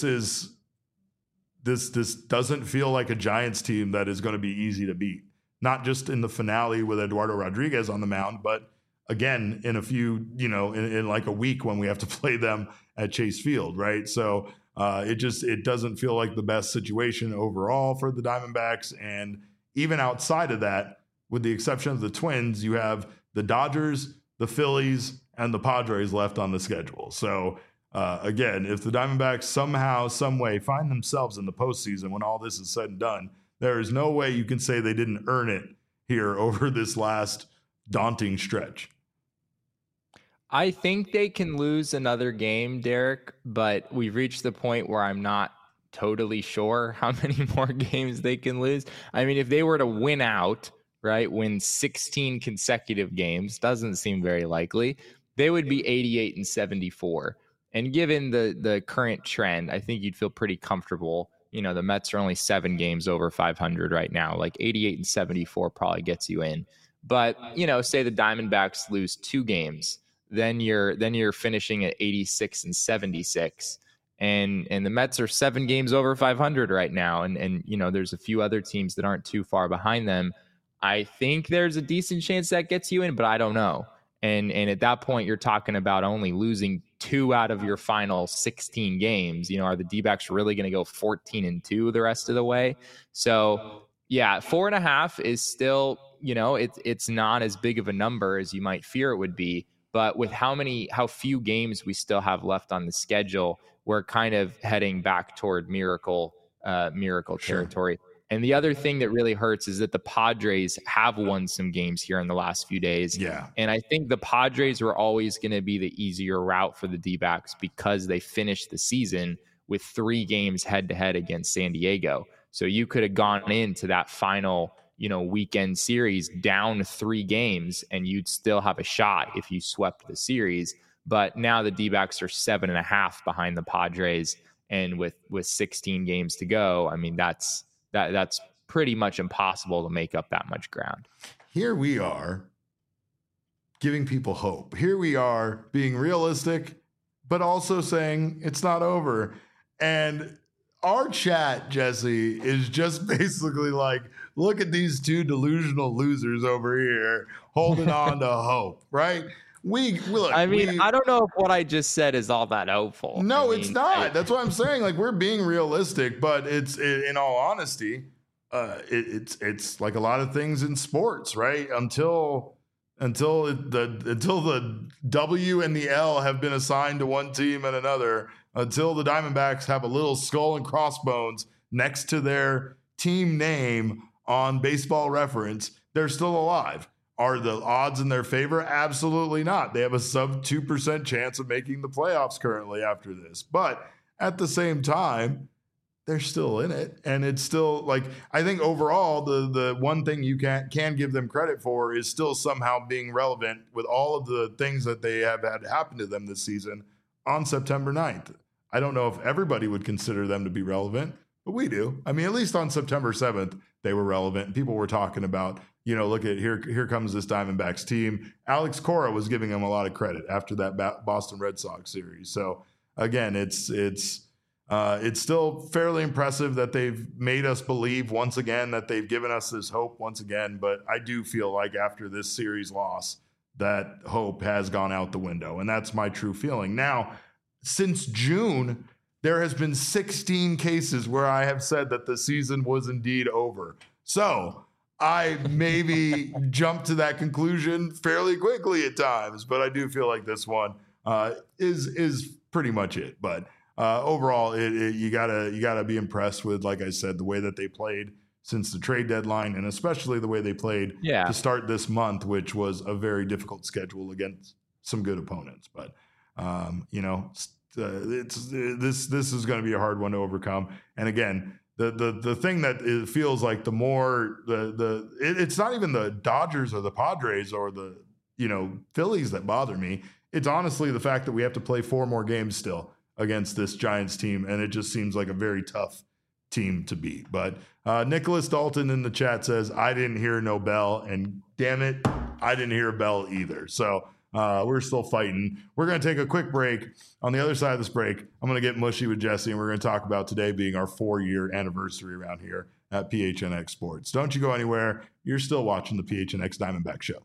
doesn't feel like a Giants team that is going to be easy to beat. Not just in the finale with Eduardo Rodriguez on the mound, but again, in a few, in like a week when we have to play them at Chase Field, right? So it doesn't feel like the best situation overall for the Diamondbacks. And even outside of that, with the exception of the Twins, you have the Dodgers, the Phillies, and the Padres left on the schedule. So again, if the Diamondbacks somehow, some way find themselves in the postseason when all this is said and done, there is no way you can say they didn't earn it here over this last daunting stretch. I think they can lose another game, Derek, but we've reached the point where I'm not totally sure how many more games they can lose. If they were to win out, right, win 16 consecutive games, doesn't seem very likely, they would be 88-74. And given the current trend, I think you'd feel pretty comfortable. The Mets are only 7 games over 500 right now. Like 88-74 probably gets you in. But, say the Diamondbacks lose 2 games then you're finishing at 86 and 76. And the Mets are 7 games over 500 right now. And there's a few other teams that aren't too far behind them. I think there's a decent chance that gets you in, but I don't know. And at that point, you're talking about only losing 2 out of your final 16 games. Are the D-backs really going to go 14-2 the rest of the way? So yeah, 4.5 is still, it's not as big of a number as you might fear it would be. But with how few games we still have left on the schedule, we're kind of heading back toward miracle territory. Sure. And the other thing that really hurts is that the Padres have won some games here in the last few days. Yeah. And I think the Padres were always going to be the easier route for the D-backs because they finished the season with 3 games head-to-head against San Diego. So you could have gone into that final, weekend series down 3 games and you'd still have a shot if you swept the series. But now the D-backs are 7.5 behind the Padres. And with 16 games to go, I mean, that's pretty much impossible to make up that much ground. Here we are giving people hope. Here we are being realistic, but also saying it's not over. And our chat, Jesse, is just basically like, look at these 2 delusional losers over here holding on to hope, right? Look, I don't know if what I just said is all that hopeful. No, it's not. That's what I'm saying. Like, we're being realistic, but in all honesty, it's like a lot of things in sports, right? Until the W and the L have been assigned to one team and another, until the Diamondbacks have a little skull and crossbones next to their team name on Baseball Reference, they're still alive. Are the odds in their favor? Absolutely not. They have a sub 2% chance of making the playoffs currently after this. But at the same time, they're still in it. And it's still like, I think overall, the one thing you can give them credit for is still somehow being relevant with all of the things that they have had happen to them this season on September 9th. I don't know if everybody would consider them to be relevant, but we do. I mean, at least on September 7th, they were relevant. People were talking about, look at here comes this Diamondbacks team. Alex Cora was giving them a lot of credit after that Boston Red Sox series. So again, it's still fairly impressive that they've made us believe once again, that they've given us this hope once again. But I do feel like after this series loss, that hope has gone out the window. And that's my true feeling. Now, since June, there has been 16 cases where I have said that the season was indeed over. So I maybe jumped to that conclusion fairly quickly at times, but I do feel like this one is pretty much it. But overall, you gotta be impressed with, like I said, the way that they played since the trade deadline, and especially the way they played to start this month, which was a very difficult schedule against some good opponents. But this is going to be a hard one to overcome. And again, the thing that it feels like the more it's not even the Dodgers or the Padres or the Phillies that bother me. It's honestly the fact that we have to play 4 more games still against this Giants team, and it just seems like a very tough team to beat. But Nicholas Dalton in the chat says, I didn't hear no bell, and damn it, I didn't hear a bell either. So we're still fighting. We're going to take a quick break. On the other side of this break, I'm going to get mushy with Jesse, and we're going to talk about today being our 4-year anniversary around here at PHNX Sports. Don't you go anywhere. You're still watching the PHNX Diamondback Show.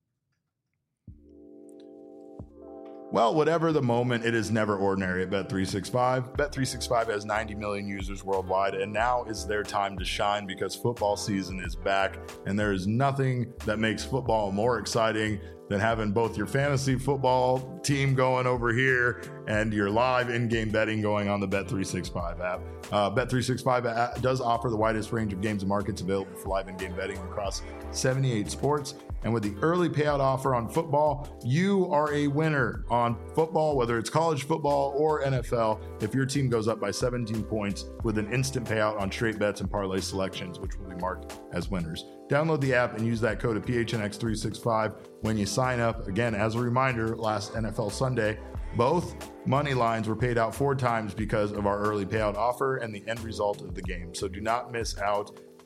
Well, whatever the moment, it is never ordinary at Bet365. Bet365 has 90 million users worldwide, and now is their time to shine because football season is back, and there is nothing that makes football more exciting than having both your fantasy football team going over here and your live in-game betting going on the Bet365 app. Bet365 does offer the widest range of games and markets available for live in-game betting across 78 sports. And with the early payout offer on football, you are a winner on football, whether it's college football or NFL, if your team goes up by 17 points with an instant payout on straight bets and parlay selections, which will be marked as winners. Download the app and use that code of PHNX365 when you sign up. Again, as a reminder, last NFL Sunday, both money lines were paid out 4 times because of our early payout offer and the end result of the game. So do not miss out.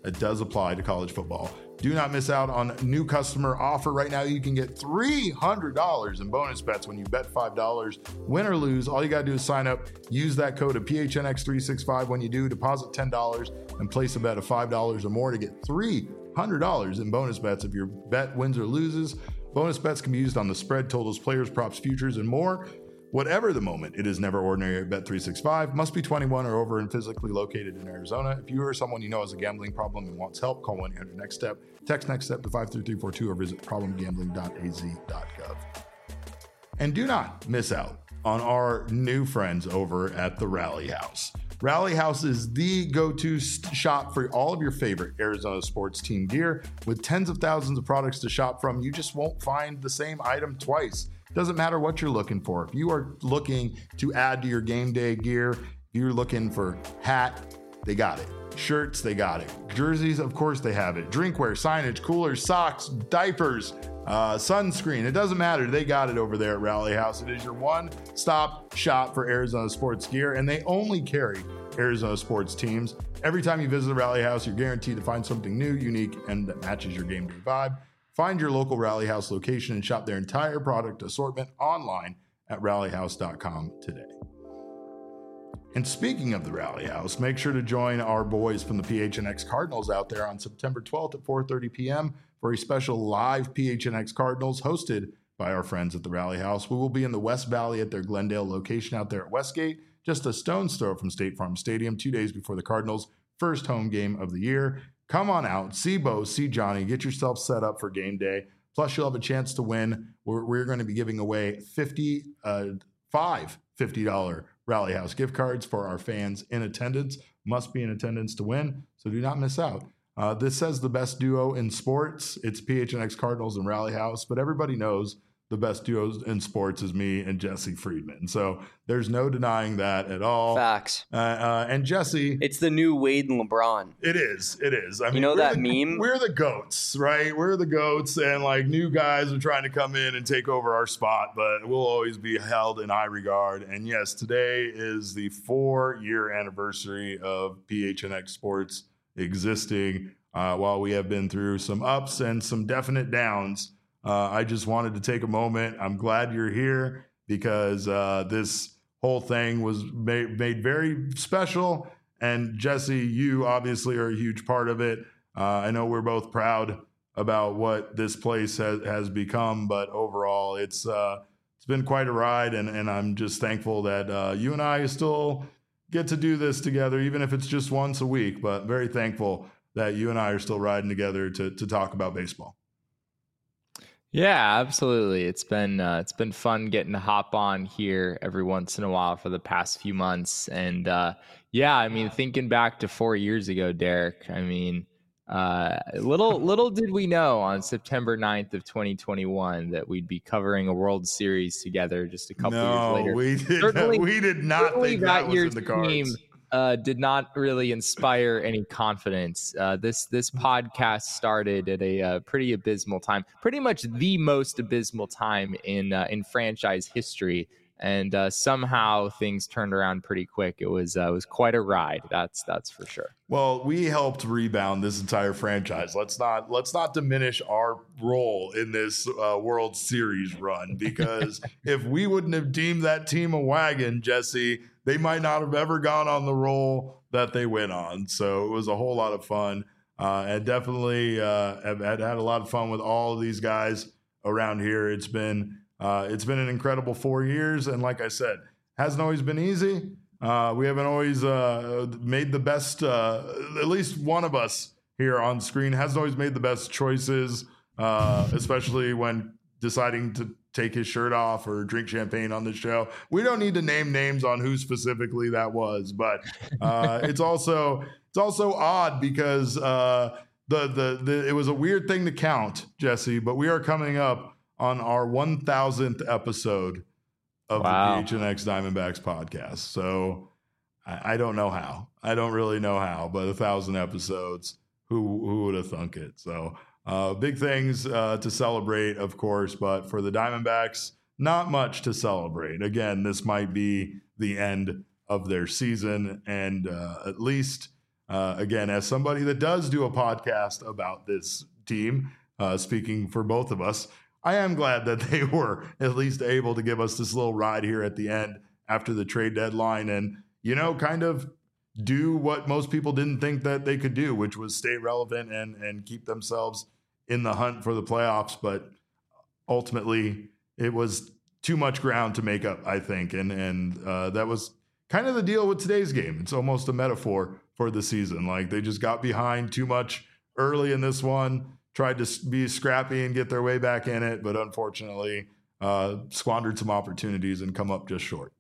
That does apply to college football. Do not miss out on new customer offer. Right now, you can get $300 in bonus bets when you bet $5. Win or lose, all you got to do is sign up. Use that code of PHNX365 when you do. Deposit $10 and place a bet of $5 or more to get $300 in bonus bets if your bet wins or loses. Bonus bets can be used on the spread, totals, players, props, futures, and more. Whatever the moment, it is never ordinary at Bet365. Must be 21 or over and physically located in Arizona. If you or someone you know has a gambling problem and wants help, call 1-800-NEXT-STEP. Text NEXT STEP to 53342 or visit problemgambling.az.gov. And do not miss out on our new friends over at the Rally House. Rally House is the go-to shop for all of your favorite Arizona sports team gear. With tens of thousands of products to shop from, you just won't find the same item twice. Doesn't matter what you're looking for. If you are looking to add to your game day gear, if you're looking for hat, they got it. Shirts, they got it. Jerseys, of course they have it. Drinkware, signage, coolers, socks, diapers, sunscreen. It doesn't matter. They got it over there at Rally House. It is your one-stop shop for Arizona sports gear, and they only carry Arizona sports teams. Every time you visit the Rally House, you're guaranteed to find something new, unique, and that matches your game day vibe. Find your local Rally House location and shop their entire product assortment online at rallyhouse.com today. And speaking of the Rally House, make sure to join our boys from the PHNX Cardinals out there on September 12th at 4:30 p.m. for a special live PHNX Cardinals hosted by our friends at the Rally House. We will be in the West Valley at their Glendale location out there at Westgate, just a stone's throw from State Farm Stadium, 2 days before the Cardinals' first home game of the year. Come on out, see Bo, see Johnny, get yourself set up for game day. Plus, you'll have a chance to win. We're going to be giving away five $50 Rally House gift cards for our fans in attendance. Must be in attendance to win, so do not miss out. This says the best duo in sports. It's PHNX Cardinals and Rally House, but everybody knows the best duos in sports is me and Jesse Friedman. So there's no denying that at all. Facts. And Jesse. It's the new Wade and LeBron. It is. I mean, you know that meme? We're the GOATs, right? We're the GOATs, and like new guys are trying to come in and take over our spot, but we'll always be held in high regard. And yes, today is the 4-year anniversary of PHNX Sports existing. While we have been through some ups and some definite downs, I just wanted to take a moment. I'm glad you're here because this whole thing was made very special. And Jesse, you obviously are a huge part of it. I know we're both proud about what this place has become, but overall, it's been quite a ride. And I'm just thankful that you and I still get to do this together, even if it's just once a week. But very thankful that you and I are still riding together to talk about baseball. Yeah, absolutely. It's been fun getting to hop on here every once in a while for the past few months. And yeah, I mean, thinking back to 4 years ago, Derek, I mean, little did we know on September 9th of 2021 that we'd be covering a World Series together just a couple years later. We did not think that was in the cards. Did not really inspire any confidence. This podcast started at a pretty abysmal time, pretty much the most abysmal time in franchise history, and somehow things turned around pretty quick. It was quite a ride. That's for sure. Well, we helped rebound this entire franchise. Let's not diminish our role in this World Series run, because if we wouldn't have deemed that team a wagon, Jesse, they might not have ever gone on the roll that they went on. So it was a whole lot of fun, and definitely have had a lot of fun with all of these guys around here. It's been an incredible 4 years, and like I said, hasn't always been easy. We haven't always made the best. At least one of us here on screen hasn't always made the best choices, especially when deciding to take his shirt off or drink champagne on the show. We don't need to name names on who specifically that was, but it's also odd because it was a weird thing to count, Jesse, but we are coming up on our 1000th episode of the PHNX Diamondbacks podcast. So I don't know how. I don't really know how, but 1,000 episodes, who would have thunk it? So big things to celebrate, of course, but for the Diamondbacks, not much to celebrate. Again, this might be the end of their season, and at least again, as somebody that does do a podcast about this team, speaking for both of us, I am glad that they were at least able to give us this little ride here at the end after the trade deadline and, kind of do what most people didn't think that they could do, which was stay relevant and keep themselves in the hunt for the playoffs. But ultimately, it was too much ground to make up, I think. And that was kind of the deal with today's game. It's almost a metaphor for the season. Like, they just got behind too much early in this one, tried to be scrappy and get their way back in it, but unfortunately squandered some opportunities and come up just short.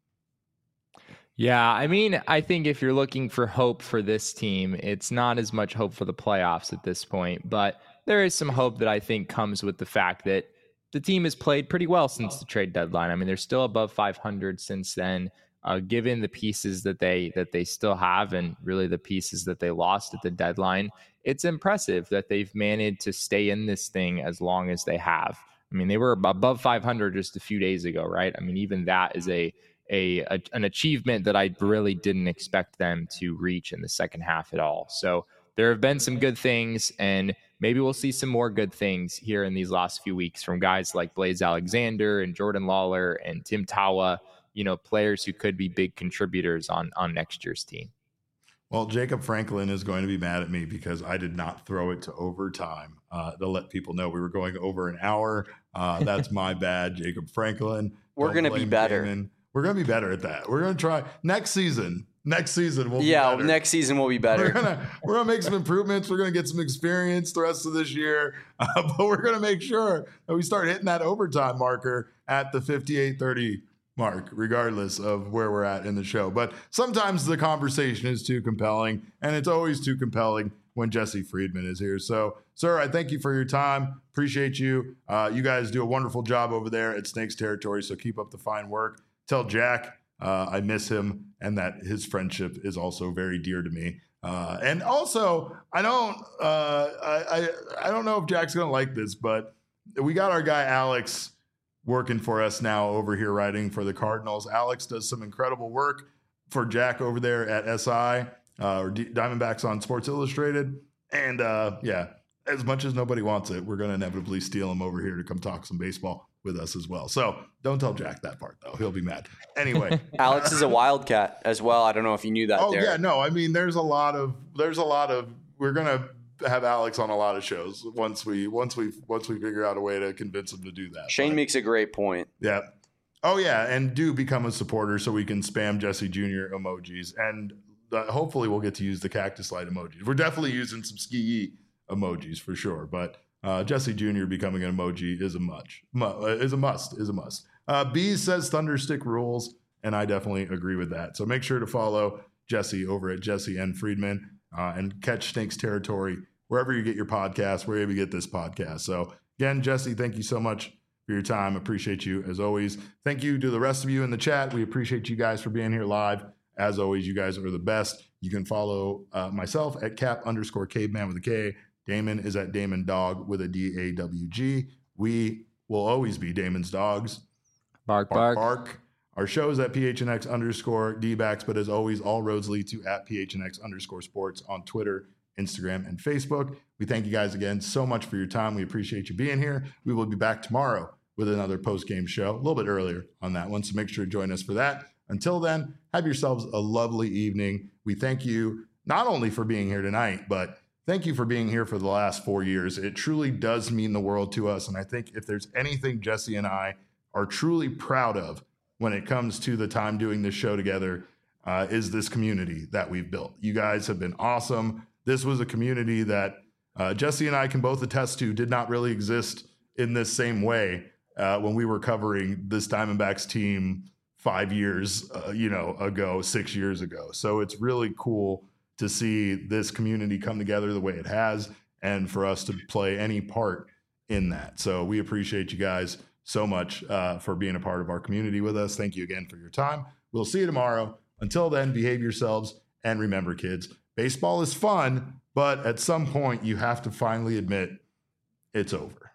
Yeah, I mean, I think if you're looking for hope for this team, it's not as much hope for the playoffs at this point, but there is some hope that I think comes with the fact that the team has played pretty well since the trade deadline. I mean, they're still above 500 since then, given the pieces that they still have and really the pieces that they lost at the deadline. It's impressive that they've managed to stay in this thing as long as they have. I mean, they were above 500 just a few days ago, right? I mean, even that is an achievement that I really didn't expect them to reach in the second half at all. So there have been some good things, and maybe we'll see some more good things here in these last few weeks from guys like Blaze Alexander and Jordan Lawler and Tim Tawa, players who could be big contributors on next year's team. Well, Jacob Franklin is going to be mad at me because I did not throw it to overtime to let people know we were going over an hour. That's my bad, Jacob Franklin. We're going to be better. We're going to be better at that. We're going to try next season. Next season we'll be better. Next season we'll be better. We're gonna make some improvements. We're gonna get some experience the rest of this year, but we're gonna make sure that we start hitting that overtime marker at the 58:30 mark, regardless of where we're at in the show. But sometimes the conversation is too compelling, and it's always too compelling when Jesse Friedman is here. So, sir, I thank you for your time. Appreciate you. You guys do a wonderful job over there at Snakes Territory. So keep up the fine work. Tell Jack I miss him and that his friendship is also very dear to me. And also, I don't know if Jack's going to like this, but we got our guy Alex working for us now over here writing for the Cardinals. Alex does some incredible work for Jack over there at SI or Diamondbacks on Sports Illustrated. And as much as nobody wants it, we're going to inevitably steal him over here to come talk some baseball with us as well. So don't tell Jack that part, though. He'll be mad. Anyway. Alex is a Wildcat as well. I don't know if you knew that. Oh, yeah. No, I mean, there's a lot of, we're going to have Alex on a lot of shows once we figure out a way to convince him to do that. Shane makes a great point. Yeah. Oh, yeah. And do become a supporter so we can spam Jesse Jr. emojis. And hopefully we'll get to use the cactus light emojis. We're definitely using some ski emojis for sure. But Jesse Jr. becoming an emoji is a must. Bees says Thunderstick rules, and I definitely agree with that. So make sure to follow Jesse over at Jesse N. Friedman and catch Snakes Territory wherever you get your podcast, wherever you get this podcast. So again, Jesse, thank you so much for your time. Appreciate you as always. Thank you to the rest of you in the chat. We appreciate you guys for being here live. As always, you guys are the best. You can follow myself at Cap_Caveman with a K. Damon is at Damon Dog with a DAWG. We will always be Damon's dogs. Bark, bark. Bark. Our show is at PHNX_DBacks, but as always, all roads lead to at PHNX_sports on Twitter, Instagram, and Facebook. We thank you guys again so much for your time. We appreciate you being here. We will be back tomorrow with another post-game show, a little bit earlier on that one, so make sure to join us for that. Until then, have yourselves a lovely evening. We thank you not only for being here tonight, but thank you for being here for the last 4 years. It truly does mean the world to us. And I think if there's anything Jesse and I are truly proud of when it comes to the time doing this show together, is this community that we've built. You guys have been awesome. This was a community that Jesse and I can both attest to did not really exist in this same way when we were covering this Diamondbacks team 5 years, 6 years ago. So it's really cool to see this community come together the way it has and for us to play any part in that. So we appreciate you guys so much for being a part of our community with us. Thank you again for your time. We'll see you tomorrow. Until then, behave yourselves. And remember, kids, baseball is fun, but at some point you have to finally admit it's over.